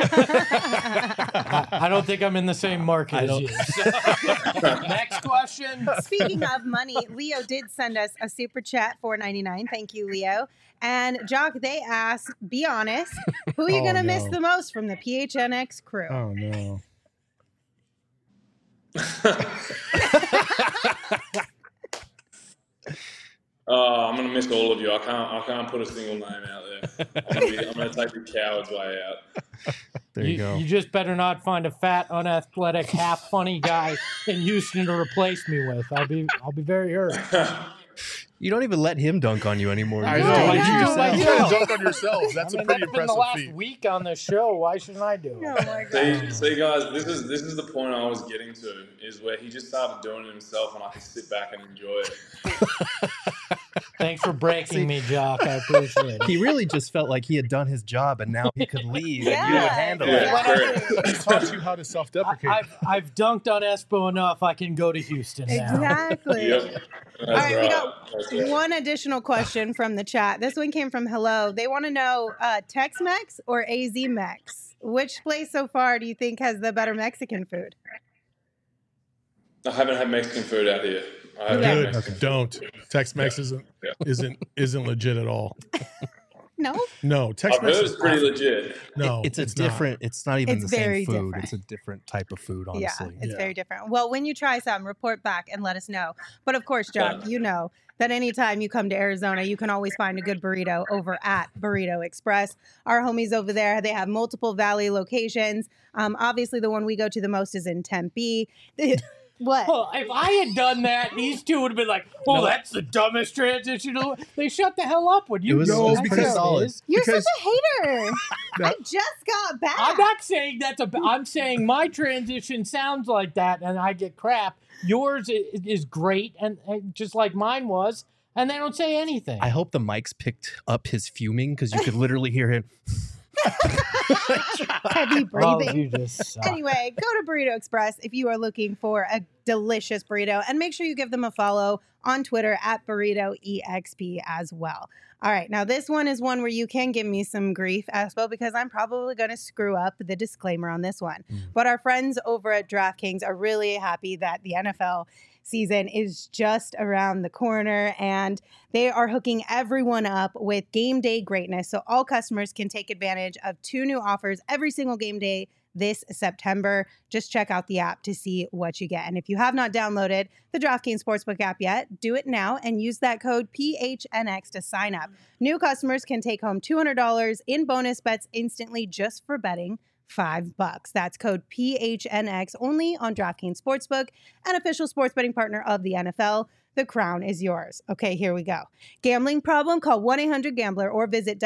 Speaker 3: I don't think I'm in the same market as you. So. Next question.
Speaker 1: Speaking of money, Leo did send us a super chat, $4.99. Thank you, Leo. And Jock, they asked, be honest, who are you going to miss the most from the PHNX crew?
Speaker 2: Oh, no.
Speaker 4: I'm going to miss all of you. I can't put a single name out there. I'm going to take the coward's way out.
Speaker 5: There you go.
Speaker 3: You just better not find a fat, unathletic, half funny guy in Houston to replace me with. I'll be very hurt.
Speaker 5: You don't even let him dunk on you anymore.
Speaker 2: I
Speaker 5: You
Speaker 2: know.
Speaker 5: just do it
Speaker 2: You
Speaker 5: yourself.
Speaker 2: gotta dunk on yourself. That's a pretty
Speaker 3: that's been
Speaker 2: impressive
Speaker 3: the last
Speaker 2: feat.
Speaker 3: week on the show. Why shouldn't I do it?
Speaker 1: Oh my God.
Speaker 4: See, guys, this is the point I was getting to, is where he just started doing it himself, and I could sit back and enjoy it.
Speaker 3: Thanks for breaking me, Jock. I appreciate it.
Speaker 5: He really just felt like he had done his job and now he could leave and you
Speaker 1: Yeah.
Speaker 5: would handle
Speaker 4: Yeah.
Speaker 5: it.
Speaker 4: Correct.
Speaker 2: He taught you how to self-deprecate.
Speaker 3: I've dunked on Espo enough. I can go to Houston now.
Speaker 1: Exactly.
Speaker 4: Yep. That's
Speaker 1: All right, we
Speaker 4: right.
Speaker 1: got
Speaker 4: That's right.
Speaker 1: one additional question from the chat. This one came from Hello. They want to know Tex-Mex or AZ-Mex? Which place so far do you think has the better Mexican food?
Speaker 4: I haven't had Mexican food out here. I haven't had
Speaker 2: Good.
Speaker 4: Mexican food.
Speaker 2: Don't. Tex-Mex
Speaker 4: Yeah.
Speaker 2: isn't legit at all.
Speaker 1: No?
Speaker 2: No.
Speaker 4: I've
Speaker 2: Tex-Mex
Speaker 4: heard
Speaker 2: is
Speaker 4: it's pretty legit.
Speaker 2: No,
Speaker 5: It's a
Speaker 2: not.
Speaker 5: different, it's not even
Speaker 1: It's
Speaker 5: the same
Speaker 1: very
Speaker 5: food.
Speaker 1: different.
Speaker 5: It's a different type of food,
Speaker 1: Yeah,
Speaker 5: honestly.
Speaker 1: it's
Speaker 2: Yeah.
Speaker 1: very different. Well, when you try some, report back and let us know. But of course, Jock, you know that anytime you come to Arizona, you can always find a good burrito over at Burrito Express. Our homies over there, they have multiple Valley locations. Obviously, the one we go to the most is in Tempe. What?
Speaker 3: Well, if I had done that, these two would have been like, "Oh, that's the dumbest transition." They shut the hell up when you.
Speaker 5: It was-
Speaker 3: know
Speaker 2: it was
Speaker 3: that's
Speaker 2: pretty
Speaker 3: how it
Speaker 5: solid.
Speaker 3: is.
Speaker 1: You're
Speaker 2: because-
Speaker 1: such a hater. I just got back.
Speaker 3: I'm not saying that's a. I'm saying my transition sounds like that, and I get crap. Yours is great, and just like mine was, and they don't say anything.
Speaker 5: I hope the mics picked up his fuming because you could literally hear him.
Speaker 1: Heavy
Speaker 3: Well,
Speaker 1: breathing.
Speaker 3: you just suck.
Speaker 1: Anyway, go to Burrito Express if you are looking for a delicious burrito, and make sure you give them a follow on Twitter at BurritoEXP as well. All right, now this one is one where you can give me some grief, Espo, because I'm probably going to screw up the disclaimer on this one. But our friends over at DraftKings are really happy that the NFL season is just around the corner, and they are hooking everyone up with game day greatness. So all customers can take advantage of 2 new offers every single game day this September. Just check out the app to see what you get. And if you have not downloaded the DraftKings Sportsbook app yet, do it now and use that code PHNX to sign up. New customers can take home $200 in bonus bets instantly just for betting $5. That's code PHNX only on DraftKings Sportsbook, an official sports betting partner of the NFL. The crown is yours. Okay, here we go. Gambling problem? Call 1-800-GAMBLER or visit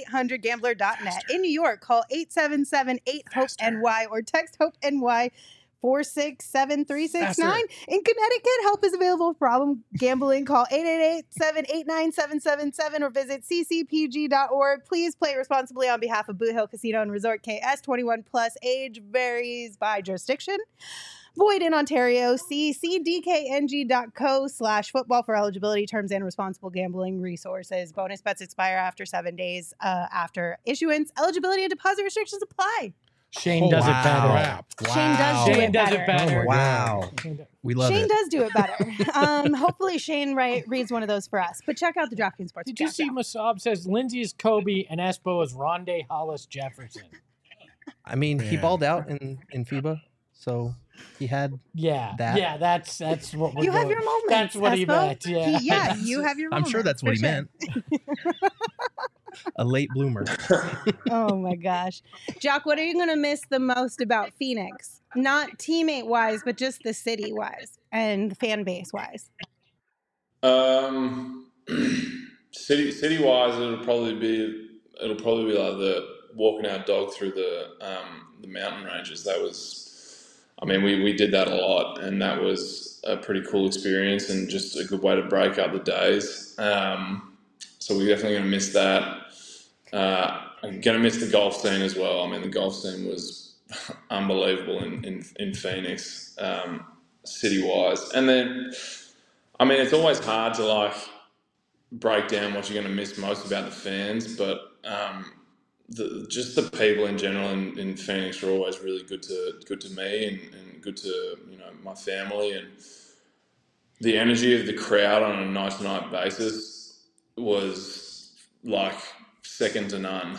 Speaker 1: www.1800gambler.net. In New York, call 877-8-HOPE-NY or text HOPE-NY 888-467-3669. In Connecticut, help is available for problem gambling. Call 888-789-7777 or visit ccpg.org. Please play responsibly on behalf of Boot Hill Casino and Resort KS. 21 plus, age varies by jurisdiction. Void in Ontario. See cdkng.co/football for eligibility, terms, and responsible gambling resources. Bonus bets expire after 7 days after issuance. Eligibility and deposit restrictions apply.
Speaker 3: Shane does it better.
Speaker 2: Crap.
Speaker 1: Shane does do
Speaker 3: Shane
Speaker 1: it
Speaker 3: does
Speaker 1: better.
Speaker 3: it better.
Speaker 5: Wow. We love
Speaker 1: Shane
Speaker 5: it.
Speaker 1: does do it better. Hopefully Shane reads one of those for us. But check out the DraftKings Sports.
Speaker 3: Did you see Masab says Lindsay is Kobe and Espo is Rondé Hollis Jefferson?
Speaker 5: I mean, he
Speaker 2: Yeah.
Speaker 5: balled out in FIBA, so he had
Speaker 3: Yeah,
Speaker 5: That-
Speaker 3: yeah, that's what we're
Speaker 1: You have
Speaker 3: doing.
Speaker 1: your moments.
Speaker 3: That's what he
Speaker 1: Espo.
Speaker 3: meant. Yeah,
Speaker 1: Yeah, you have your
Speaker 5: I'm
Speaker 1: moments.
Speaker 5: sure that's what
Speaker 1: for
Speaker 5: he
Speaker 1: sure.
Speaker 5: meant. A late bloomer.
Speaker 1: Oh my gosh. Jock, what are you going to miss the most about Phoenix? Not teammate wise, but just the city wise and fan base wise.
Speaker 4: City wise, it'll probably be like the walking our dog through the mountain ranges. That was, I mean, we did that a lot, and that was a pretty cool experience and just a good way to break up the days. So we're definitely going to miss that. I'm going to miss the golf scene as well. I mean, the golf scene was unbelievable in Phoenix, city-wise. And then, I mean, it's always hard to, like, break down what you're going to miss most about the fans, but just the people in general in Phoenix were always really good to me and good to, you know, my family. And the energy of the crowd on a night-to-night basis was, like, second to none.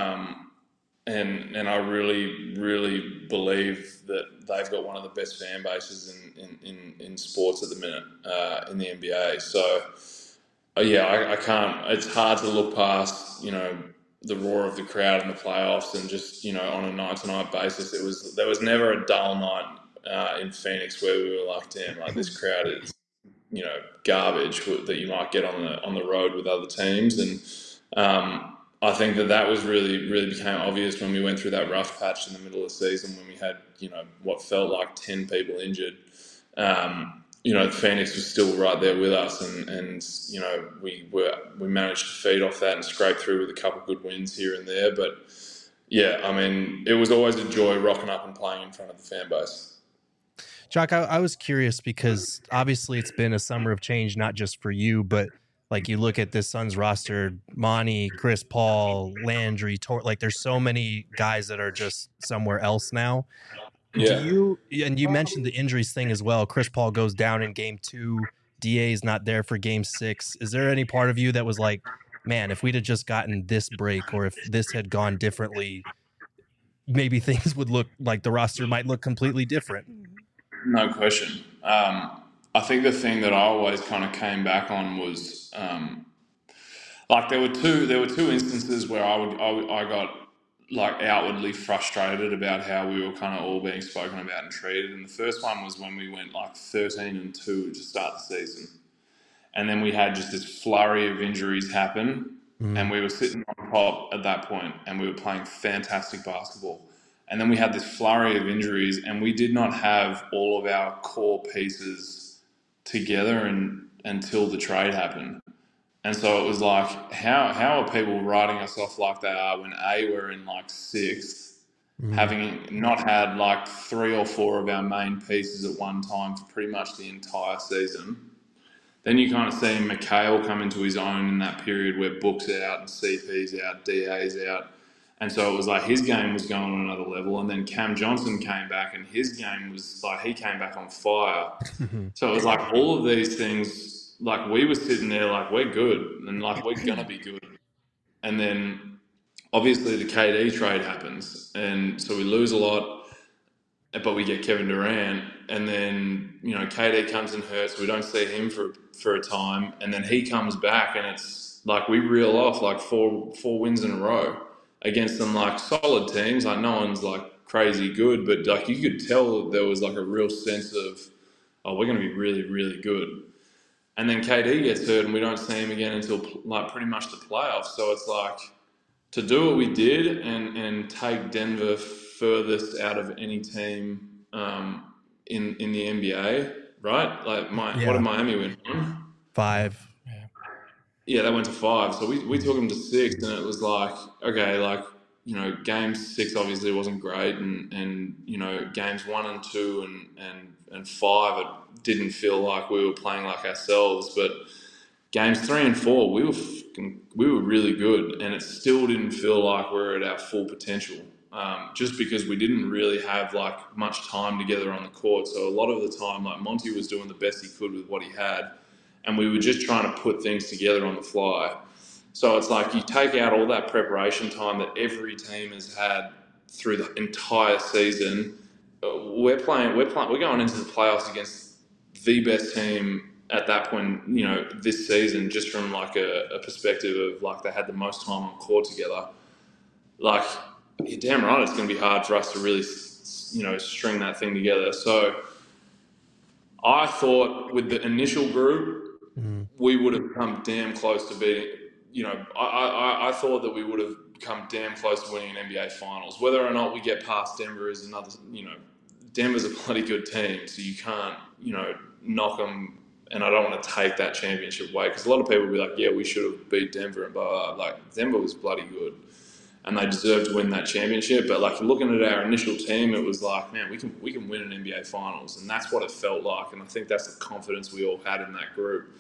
Speaker 4: And I really, really believe that they've got one of the best fan bases in sports at the minute in the NBA. So, yeah, I can't. It's hard to look past, you know, the roar of the crowd in the playoffs and just, you know, on a night-to-night basis. There was never a dull night in Phoenix where we were like, damn, like this crowd is, you know, garbage that you might get on the road with other teams. And I think that was really, really became obvious when we went through that rough patch in the middle of the season when we had, you know, what felt like 10 people injured. You know, Phoenix was still right there with us, and you know, we managed to feed off that and scrape through with a couple of good wins here and there. But yeah, I mean, it was always a joy rocking up and playing in front of the fan base.
Speaker 5: Jock, I was curious because obviously it's been a summer of change, not just for you, but like you look at this Suns roster, Monty, Chris Paul, Landry, like there's so many guys that are just somewhere else now.
Speaker 4: Yeah.
Speaker 5: And you mentioned the injuries thing as well. Chris Paul goes down in game 2. DA is not there for game 6. Is there any part of you that was like, man, if we'd have just gotten this break or if this had gone differently, maybe things would look like the roster might look completely different?
Speaker 4: No question. I think the thing that I always kind of came back on was like there were two instances where I got like outwardly frustrated about how we were kind of all being spoken about and treated. And the first one was when we went like 13-2 to start the season, and then we had just this flurry of injuries happen, and we were sitting on top at that point, and we were playing fantastic basketball. And then we had this flurry of injuries, and we did not have all of our core pieces together until the trade happened. And so it was like, how are people writing us off like they are when we're in like 6th, having not had like 3 or 4 of our main pieces at one time for pretty much the entire season. Then you kind of see Mikhail come into his own in that period where Book's out and CP's out, DA's out. And so it was like his game was going on another level. And then Cam Johnson came back and his game was like, he came back on fire. So it was like all of these things, like we were sitting there like, we're good and like we're going to be good. And then obviously the KD trade happens. And so we lose a lot, but we get Kevin Durant. And then, you know, KD comes and hurts. We don't see him for a time. And then he comes back and it's like we reel off like four wins in a row against some like solid teams. Like no one's like crazy good, but like you could tell there was like a real sense of, oh, we're going to be really, really good. And then KD gets hurt and we don't see him again until like pretty much the playoffs. So it's like to do what we did and take Denver furthest out of any team in the NBA, right? Like
Speaker 5: Yeah.
Speaker 4: what did Miami win?
Speaker 5: 5.
Speaker 4: Yeah, they went to 5. So we took them to 6, and it was like, okay, like, you know, game 6 obviously wasn't great, and you know, games 1 and 2 and 5, it didn't feel like we were playing like ourselves. But games 3 and 4, we were really good, and it still didn't feel like we were at our full potential. Just because we didn't really have like much time together on the court. So a lot of the time, like, Monty was doing the best he could with what he had, and we were just trying to put things together on the fly. So it's like you take out all that preparation time that every team has had through the entire season. We're going into the playoffs against the best team at that point, you know, this season, just from like a perspective of like they had the most time on court together. Like, you're damn right, it's going to be hard for us to really, you know, string that thing together. So I thought with the initial group, we would have come damn close to beating, you know, I thought that we would have come damn close to winning an NBA Finals. Whether or not we get past Denver is another, you know, Denver's a bloody good team, so you can't, you know, knock them, and I don't want to take that championship away, because a lot of people will be like, yeah, we should have beat Denver, and blah, blah, blah. Like, Denver was bloody good, and they deserved to win that championship. But like, looking at our initial team, it was like, man, we can win an NBA Finals, and that's what it felt like, and I think that's the confidence we all had in that group.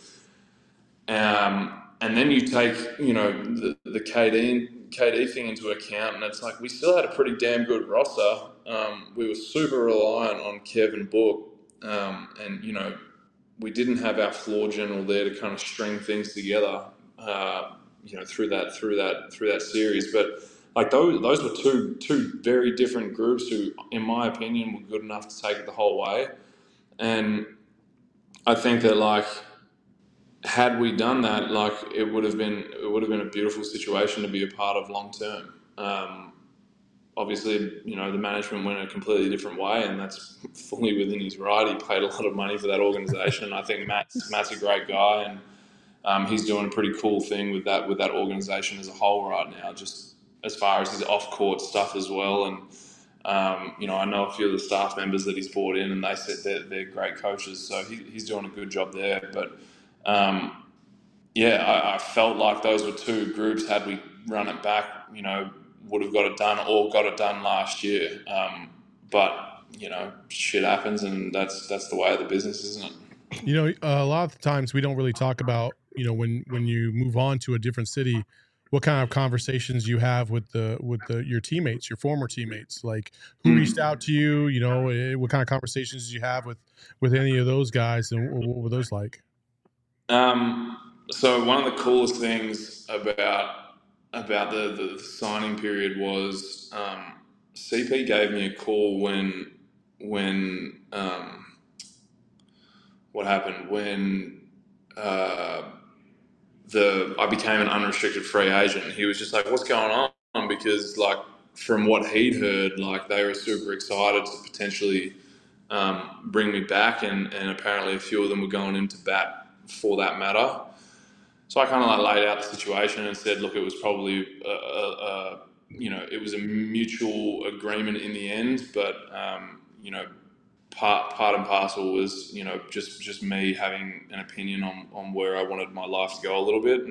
Speaker 4: And then you take, you know, the KD thing into account, and it's like we still had a pretty damn good roster. We were super reliant on Kevin Book, and you know, we didn't have our floor general there to kind of string things together, you know, through that series. But like those were two very different groups who, in my opinion, were good enough to take it the whole way. And I think that, like, had we done that, like, it would have been a beautiful situation to be a part of long term. Obviously, you know, the management went a completely different way, and that's fully within his right. He paid a lot of money for that organization. I think Matt's a great guy, and he's doing a pretty cool thing with that organization as a whole right now, just as far as his off-court stuff as well. And you know, I know a few of the staff members that he's brought in, and they said they're great coaches, so he's doing a good job there. But yeah, I felt like those were two groups, had we run it back, you know, would have got it done, or got it done last year. But, you know, shit happens, and that's the way of the business, isn't it?
Speaker 2: You know, a lot of the times we don't really talk about, you know, when you move on to a different city, what kind of conversations you have with your teammates, your former teammates, like who reached out to you, you know, what kind of conversations did you have with any of those guys, and what were those like?
Speaker 4: So one of the coolest things about the signing period was CP gave me a call when what happened when I became an unrestricted free agent. He was just like, what's going on? Because, like, from what he'd heard, like, they were super excited to potentially bring me back, and apparently a few of them were going into bat for that matter. So I kind of like laid out the situation and said, look, it was probably you know, it was a mutual agreement in the end, but you know, part and parcel was, you know, just me having an opinion on where I wanted my life to go a little bit.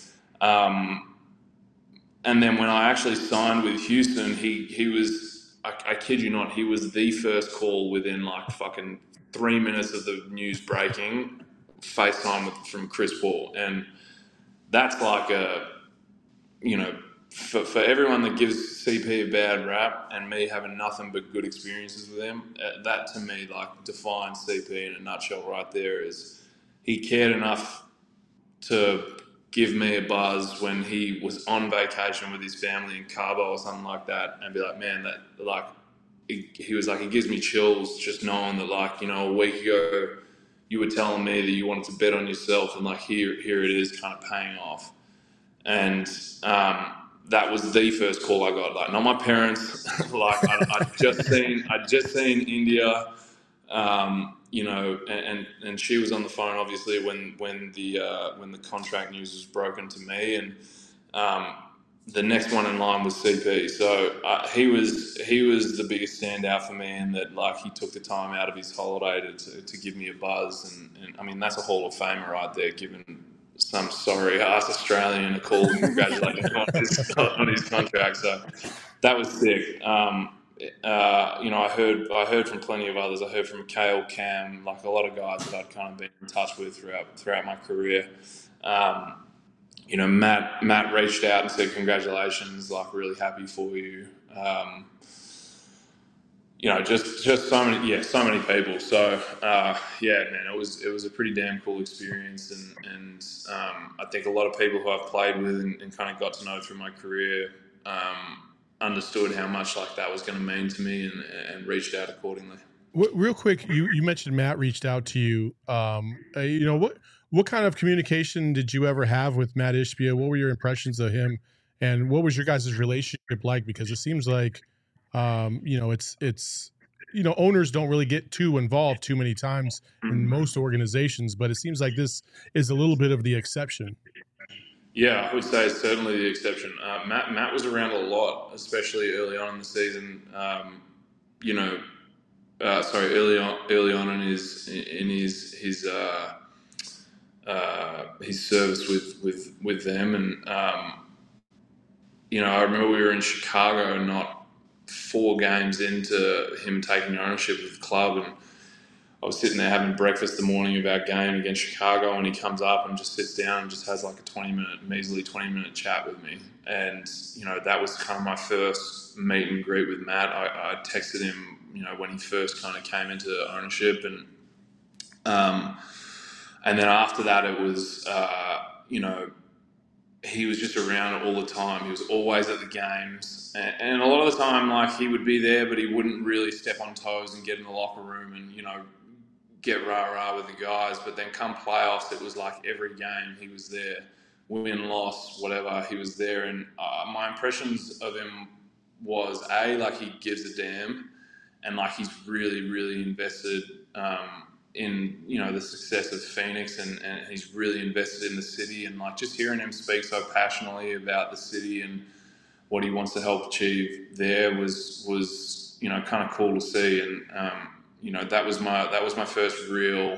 Speaker 4: And then when I actually signed with Houston, he was, I kid you not, he was the first call within like fucking 3 minutes of the news breaking, FaceTime from Chris Paul. And that's like a, you know, for everyone that gives CP a bad rap, and me having nothing but good experiences with him, that to me, like, defines CP in a nutshell right there. Is he cared enough to give me a buzz when he was on vacation with his family in Cabo or something like that, and be like, man, that, like, he was like, it gives me chills just knowing that, like, you know, a week ago you were telling me that you wanted to bet on yourself, and like here it is kind of paying off. And that was the first call I got. Like, not my parents. Like, I'd just seen India, you know, and she was on the phone obviously when the contract news was broken to me, and the next one in line was CP. So he was the biggest standout for me, and that like he took the time out of his holiday to give me a buzz, and I mean that's a Hall of Famer right there, giving some sorry ass Australian a call and congratulating him on his contract. So that was sick. I heard from plenty of others. I heard from Kale, Cam, like a lot of guys that I'd kind of been in touch with throughout my career. Matt reached out and said, congratulations, like really happy for you. Just so many people. So, man, it was a pretty damn cool experience. And I think a lot of people who I've played with and kind of got to know through my career, understood how much like that was going to mean to me and reached out accordingly.
Speaker 2: Real quick, you mentioned Matt reached out to you. What kind of communication did you ever have with Matt Ishbia? What were your impressions of him, and what was your guys' relationship like? Because it seems like, it's owners don't really get too involved too many times in most organizations, but it seems like this is a little bit of the exception.
Speaker 4: Yeah, I would say it's certainly the exception. Matt was around a lot, especially early on in the season. Early on in his service with them, and I remember we were in Chicago, not 4 games into him taking ownership of the club, and I was sitting there having breakfast the morning of our game against Chicago, and he comes up and just sits down and just has like a measly 20-minute chat with me. And, that was kind of my first meet and greet with Matt. I texted him, when he first kind of came into ownership. And then after that, it was, he was just around all the time. He was always at the games. And a lot of the time, like, he would be there, but he wouldn't really step on toes and get in the locker room and, get rah-rah with the guys. But then come playoffs, it was like every game he was there. Win, loss, whatever, he was there. And my impressions of him was, like he gives a damn. And like he's really, really invested in, the success of Phoenix. And he's really invested in the city. And like just hearing him speak so passionately about the city and what he wants to help achieve there was kind of cool to see. And, that was my first real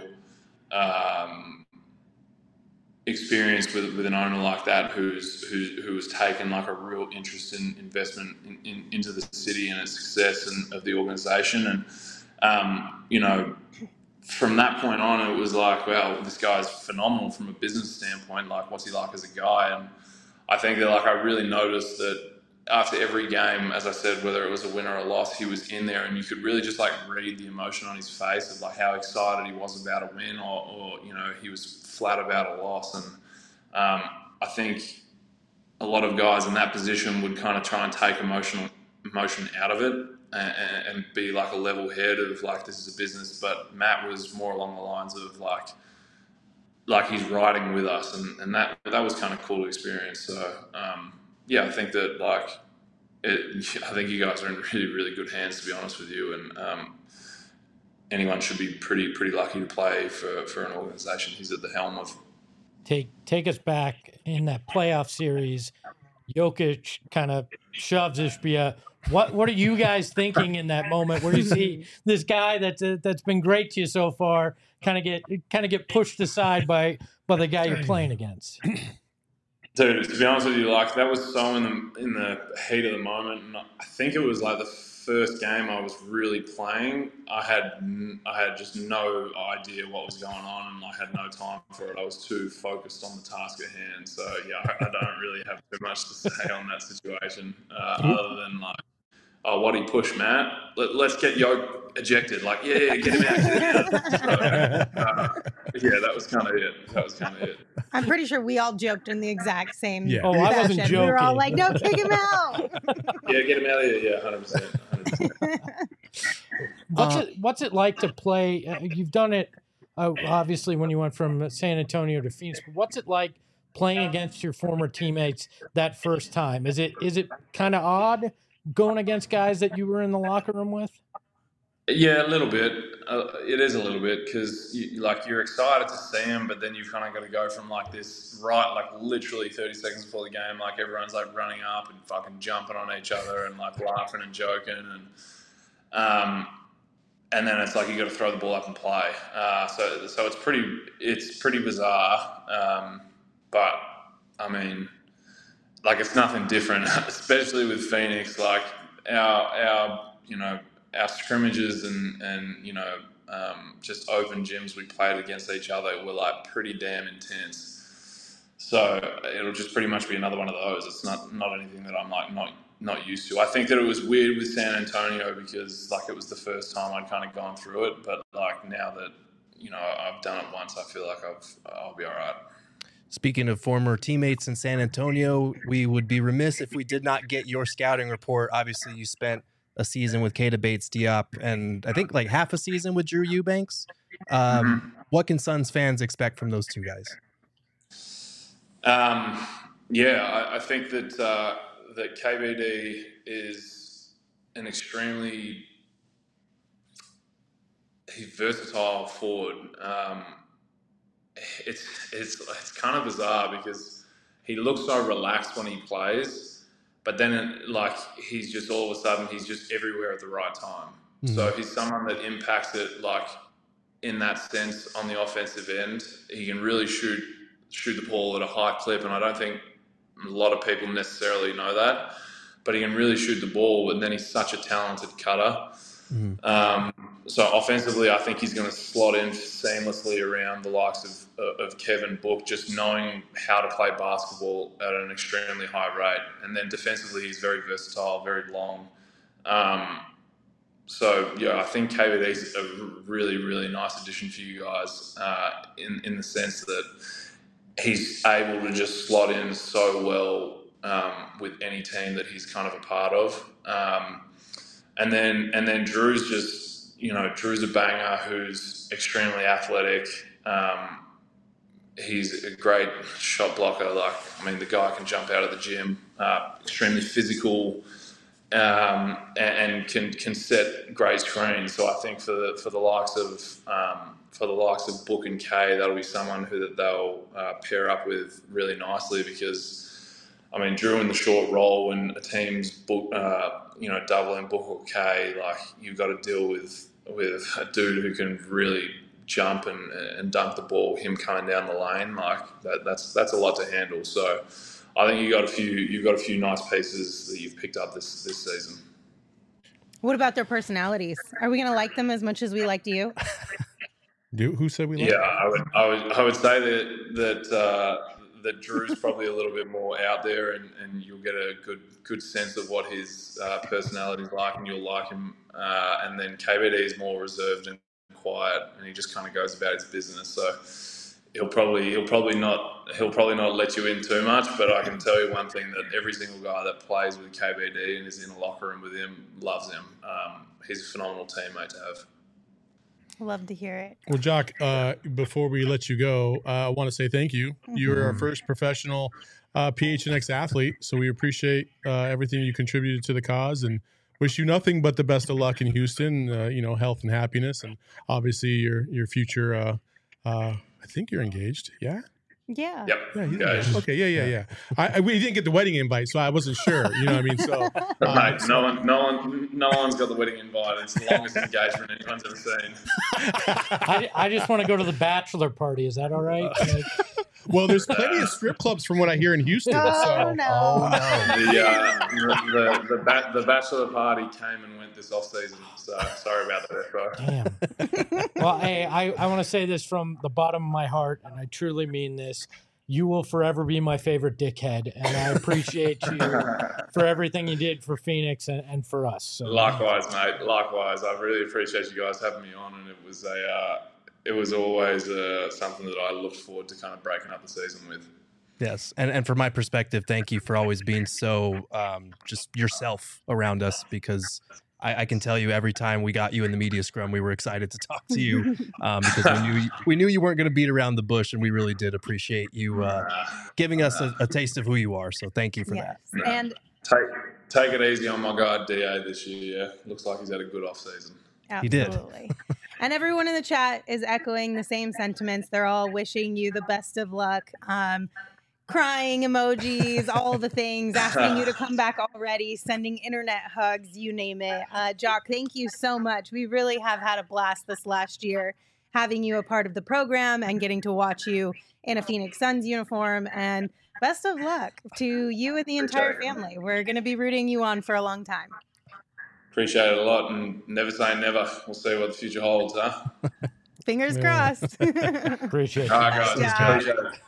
Speaker 4: experience with an owner like that who's taken like a real interest in investment into the city and its success and of the organization. And from that point on, it was like, well, this guy's phenomenal from a business standpoint. Like, what's he like as a guy? And I think that like I really noticed that after every game, as I said, whether it was a win or a loss, he was in there, and you could really just like read the emotion on his face of like how excited he was about a win, or he was flat about a loss. And I think a lot of guys in that position would kind of try and take emotion out of it and be like a level head of like, this is a business. But Matt was more along the lines of like he's riding with us, and that was kind of cool to experience. So I think that I think you guys are in really, really good hands, to be honest with you. And anyone should be pretty lucky to play for an organization he's at the helm of.
Speaker 3: Take us back in that playoff series. Jokic kind of shoves Ishbia. What are you guys thinking in that moment where you see this guy that's been great to you so far kind of get pushed aside by the guy you're playing against?
Speaker 4: Dude, to be honest with you, like that was so in the heat of the moment, and I think it was like the first game I was really playing. I had just no idea what was going on, and I had no time for it. I was too focused on the task at hand. So yeah, I don't really have too much to say on that situation, other than like, oh, what he pushed Matt. Let's get Yoke ejected. Like, yeah, get him out. That was kind of it.
Speaker 1: I'm pretty sure we all joked in the exact same
Speaker 3: Oh, I wasn't joking.
Speaker 1: We were all like, no, kick him out.
Speaker 4: Yeah, get him out of here. Yeah, 100%.
Speaker 3: What's it like to play? You've done it, obviously, when you went from San Antonio to Phoenix. But what's it like playing against your former teammates that first time? Is it kind of odd going against guys that you were in the locker room with?
Speaker 4: Yeah, a little bit. It is a little bit because you're excited to see them, but then you've kind of got to go from like this literally 30 seconds before the game, like everyone's like running up and fucking jumping on each other and like laughing and joking and then it's like you got to throw the ball up and play. So it's pretty bizarre. But I mean, like it's nothing different, especially with Phoenix. Like our scrimmages and just open gyms we played against each other were like pretty damn intense. So it'll just pretty much be another one of those. It's not anything that I'm like not used to. I think that it was weird with San Antonio because like it was the first time I'd kind of gone through it, but like now that I've done it once, I feel like I'll be all right.
Speaker 5: Speaking of former teammates in San Antonio, we would be remiss if we did not get your scouting report. Obviously, you spent a season with Keita Bates-Diop and I think like half a season with Drew Eubanks. What can Suns fans expect from those two guys?
Speaker 4: I think that KBD is an extremely versatile forward. It's kind of bizarre because he looks so relaxed when he plays, but then he's just all of a sudden he's just everywhere at the right time. Mm-hmm. So he's someone that impacts it like in that sense on the offensive end. He can really shoot the ball at a high clip, and I don't think a lot of people necessarily know that, but he can really shoot the ball, and then he's such a talented cutter. Mm-hmm. So offensively, I think he's going to slot in seamlessly around the likes of Kevin Book, just knowing how to play basketball at an extremely high rate. And then defensively, he's very versatile, very long. I think KBD is a really, really nice addition for you guys in the sense that he's able to just slot in so well with any team that he's kind of a part of. And then Drew's just, Drew's a banger who's extremely athletic. He's a great shot blocker. The guy can jump out of the gym, extremely physical, and can set great screens. So I think for the likes of Book and Kay, that'll be someone who they'll pair up with really nicely because, Drew in the short roll when a team's doubling Book or Kay, you've got to deal with a dude who can really jump and dunk the ball. Him coming down the lane, that's a lot to handle. So I think you've got a few nice pieces that you've picked up this season.
Speaker 1: What about their personalities? Are we going to like them as much as we liked you?
Speaker 2: Who said we liked them?
Speaker 4: Yeah, I would say that Drew's probably a little bit more out there, and you'll get a good sense of what his personality is like, and you'll like him. And then KBD is more reserved and quiet, and he just kind of goes about his business. So he'll probably not let you in too much. But I can tell you one thing, that every single guy that plays with KBD and is in a locker room with him loves him. He's a phenomenal teammate to have.
Speaker 1: Love to hear it.
Speaker 2: Well, Jock, before we let you go, I want to say thank you. Mm-hmm. You were our first professional PHNX athlete, so we appreciate everything you contributed to the cause and wish you nothing but the best of luck in Houston, health and happiness, and obviously your future. I think you're engaged, yeah?
Speaker 1: Yeah.
Speaker 4: Yep.
Speaker 2: Yeah, he's engaged. Okay, yeah. We didn't get the wedding invite, so I wasn't sure. You know what I mean? So,
Speaker 4: mate, no one's got the wedding invite. It's the longest engagement anyone's ever seen.
Speaker 3: I just want to go to the bachelor party. Is that all right?
Speaker 2: Well, there's plenty of strip clubs from what I hear in Houston.
Speaker 1: Oh, no.
Speaker 4: The bachelor party came and went this off season. So sorry about that, bro.
Speaker 3: Damn. Well, hey, I want to say this from the bottom of my heart, and I truly mean this. You will forever be my favorite dickhead, and I appreciate you for everything you did for Phoenix and for us. So,
Speaker 4: likewise, mate. Likewise. I really appreciate you guys having me on, and it was always something that I looked forward to kind of breaking up the season with.
Speaker 5: Yes. And from my perspective, thank you for always being so just yourself around us, because I can tell you every time we got you in the media scrum, we were excited to talk to you because we knew you weren't going to beat around the bush, and we really did appreciate you giving us a taste of who you are. So thank you for that.
Speaker 1: And
Speaker 4: take it easy on my guy DA this year. Yeah, looks like he's had a good off season.
Speaker 5: He did.
Speaker 1: Absolutely. And everyone in the chat is echoing the same sentiments. They're all wishing you the best of luck. Crying emojis, all the things, asking you to come back already, sending internet hugs, you name it. Jock, thank you so much. We really have had a blast this last year having you a part of the program and getting to watch you in a Phoenix Suns uniform. And best of luck to you and the entire family. We're going to be rooting you on for a long time.
Speaker 4: Appreciate it a lot, and never say never. We'll see what the future holds, huh?
Speaker 1: Fingers crossed.
Speaker 3: Appreciate
Speaker 4: All
Speaker 3: it.
Speaker 4: right, guys.
Speaker 1: Yeah.
Speaker 4: Appreciate it.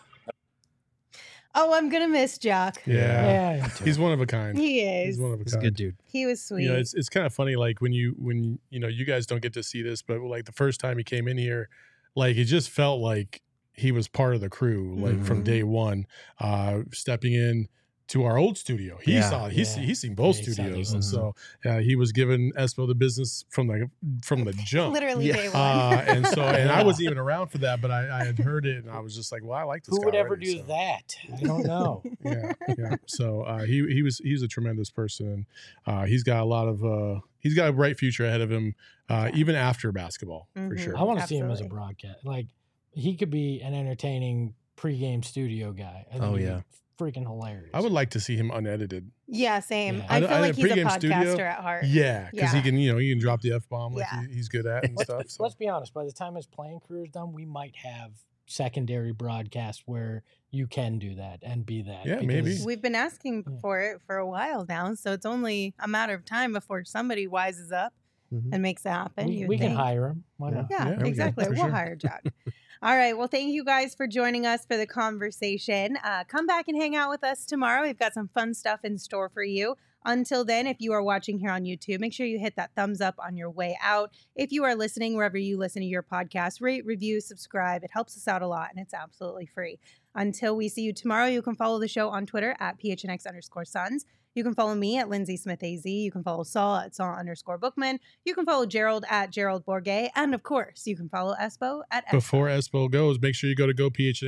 Speaker 1: Oh, I'm going to miss Jock.
Speaker 2: Yeah.
Speaker 3: me too.
Speaker 2: He's one of a kind.
Speaker 1: He is.
Speaker 2: He's one of a
Speaker 5: He's a
Speaker 2: kind.
Speaker 5: good dude.
Speaker 1: He was sweet.
Speaker 2: You know, it's kind of funny, like when you guys don't get to see this, but like the first time he came in here, like it just felt like he was part of the crew, like from day one, stepping in to our old studio. He's seen both
Speaker 3: Yeah, he saw
Speaker 2: studios,
Speaker 3: the-
Speaker 2: and so he was giving Espo the business from the jump.
Speaker 1: Literally day one.
Speaker 2: And I wasn't even around for that, but I had heard it, and I was just like, well, I like this
Speaker 3: Who
Speaker 2: guy
Speaker 3: would ever
Speaker 2: already,
Speaker 3: do
Speaker 2: so.
Speaker 3: that? I don't know.
Speaker 2: Yeah. So he's a tremendous person, and he's got a bright future ahead of him, even after basketball, for
Speaker 1: Mhm.
Speaker 2: sure.
Speaker 3: I want to see him as a
Speaker 1: Absolutely.
Speaker 3: broadcast. Like, he could be an entertaining pregame studio guy. I think
Speaker 5: Oh,
Speaker 3: he'd be
Speaker 5: yeah.
Speaker 3: freaking hilarious.
Speaker 2: I would like to see him unedited.
Speaker 1: Yeah, same.
Speaker 3: Yeah.
Speaker 1: I feel like he's a
Speaker 2: pregame
Speaker 1: podcaster
Speaker 2: studio,
Speaker 1: at heart.
Speaker 2: Yeah, because
Speaker 1: Yeah.
Speaker 2: he can drop the F-bomb like
Speaker 1: Yeah.
Speaker 2: he's good at and stuff. So.
Speaker 3: Let's be honest. By the time his playing career is done, we might have secondary broadcast where you can do that and be that.
Speaker 2: Yeah, maybe.
Speaker 3: because-
Speaker 1: We've been asking
Speaker 3: Yeah.
Speaker 1: for it for a while now, so it's only a matter of time before somebody wises up
Speaker 5: Mhm.
Speaker 1: and makes it happen. you
Speaker 3: We
Speaker 1: would
Speaker 3: can
Speaker 1: think.
Speaker 3: hire him. Why not?
Speaker 1: Yeah,
Speaker 2: Yeah, we can,
Speaker 1: exactly.
Speaker 2: for
Speaker 1: We'll
Speaker 2: sure.
Speaker 1: hire Jack. All right. Well, thank you guys for joining us for the conversation. Come back and hang out with us tomorrow. We've got some fun stuff in store for you. Until then, if you are watching here on YouTube, make sure you hit that thumbs up on your way out. If you are listening wherever you listen to your podcast, rate, review, subscribe. It helps us out a lot, and it's absolutely free. Until we see you tomorrow, you can follow the show on Twitter at PHNX_Suns. You can follow me at Lindsay Smith AZ. You can follow Saul at Saul_Bookman. You can follow Gerald at Gerald Bourget. And of course, you can follow Espo at Espo.
Speaker 2: Before Espo goes, make sure you go to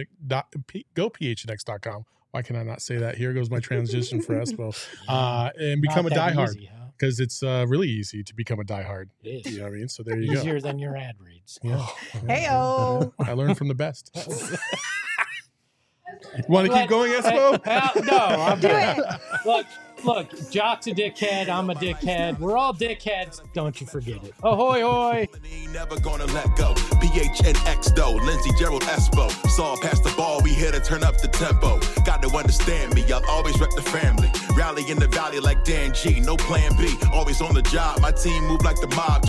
Speaker 2: gophnx.com. Why can I not say that? Here goes my transition for Espo. And become a
Speaker 3: Not that
Speaker 2: diehard,
Speaker 3: easy, huh?
Speaker 2: because it's really easy to become a diehard.
Speaker 3: It
Speaker 2: You
Speaker 3: is.
Speaker 2: know what I mean? So there you go.
Speaker 3: Easier than your ad reads.
Speaker 2: Yeah.
Speaker 1: Heyo.
Speaker 2: I learned from the best. Want to keep going, Espo?
Speaker 3: No, I'm
Speaker 1: Do
Speaker 3: good.
Speaker 1: it.
Speaker 3: Look, Jock's a dickhead. I'm a dickhead. We're all dickheads. Don't you forget it. Ahoy, hoy.
Speaker 6: Ain't never gonna let go. PHNX though, Lindsay, Gerald, Espo. Saw past the ball, we here to turn up the tempo. Got to understand me, I'll always rep the family. Rally in the valley like Dan G, no plan B. Always on the job, my team move like the mob.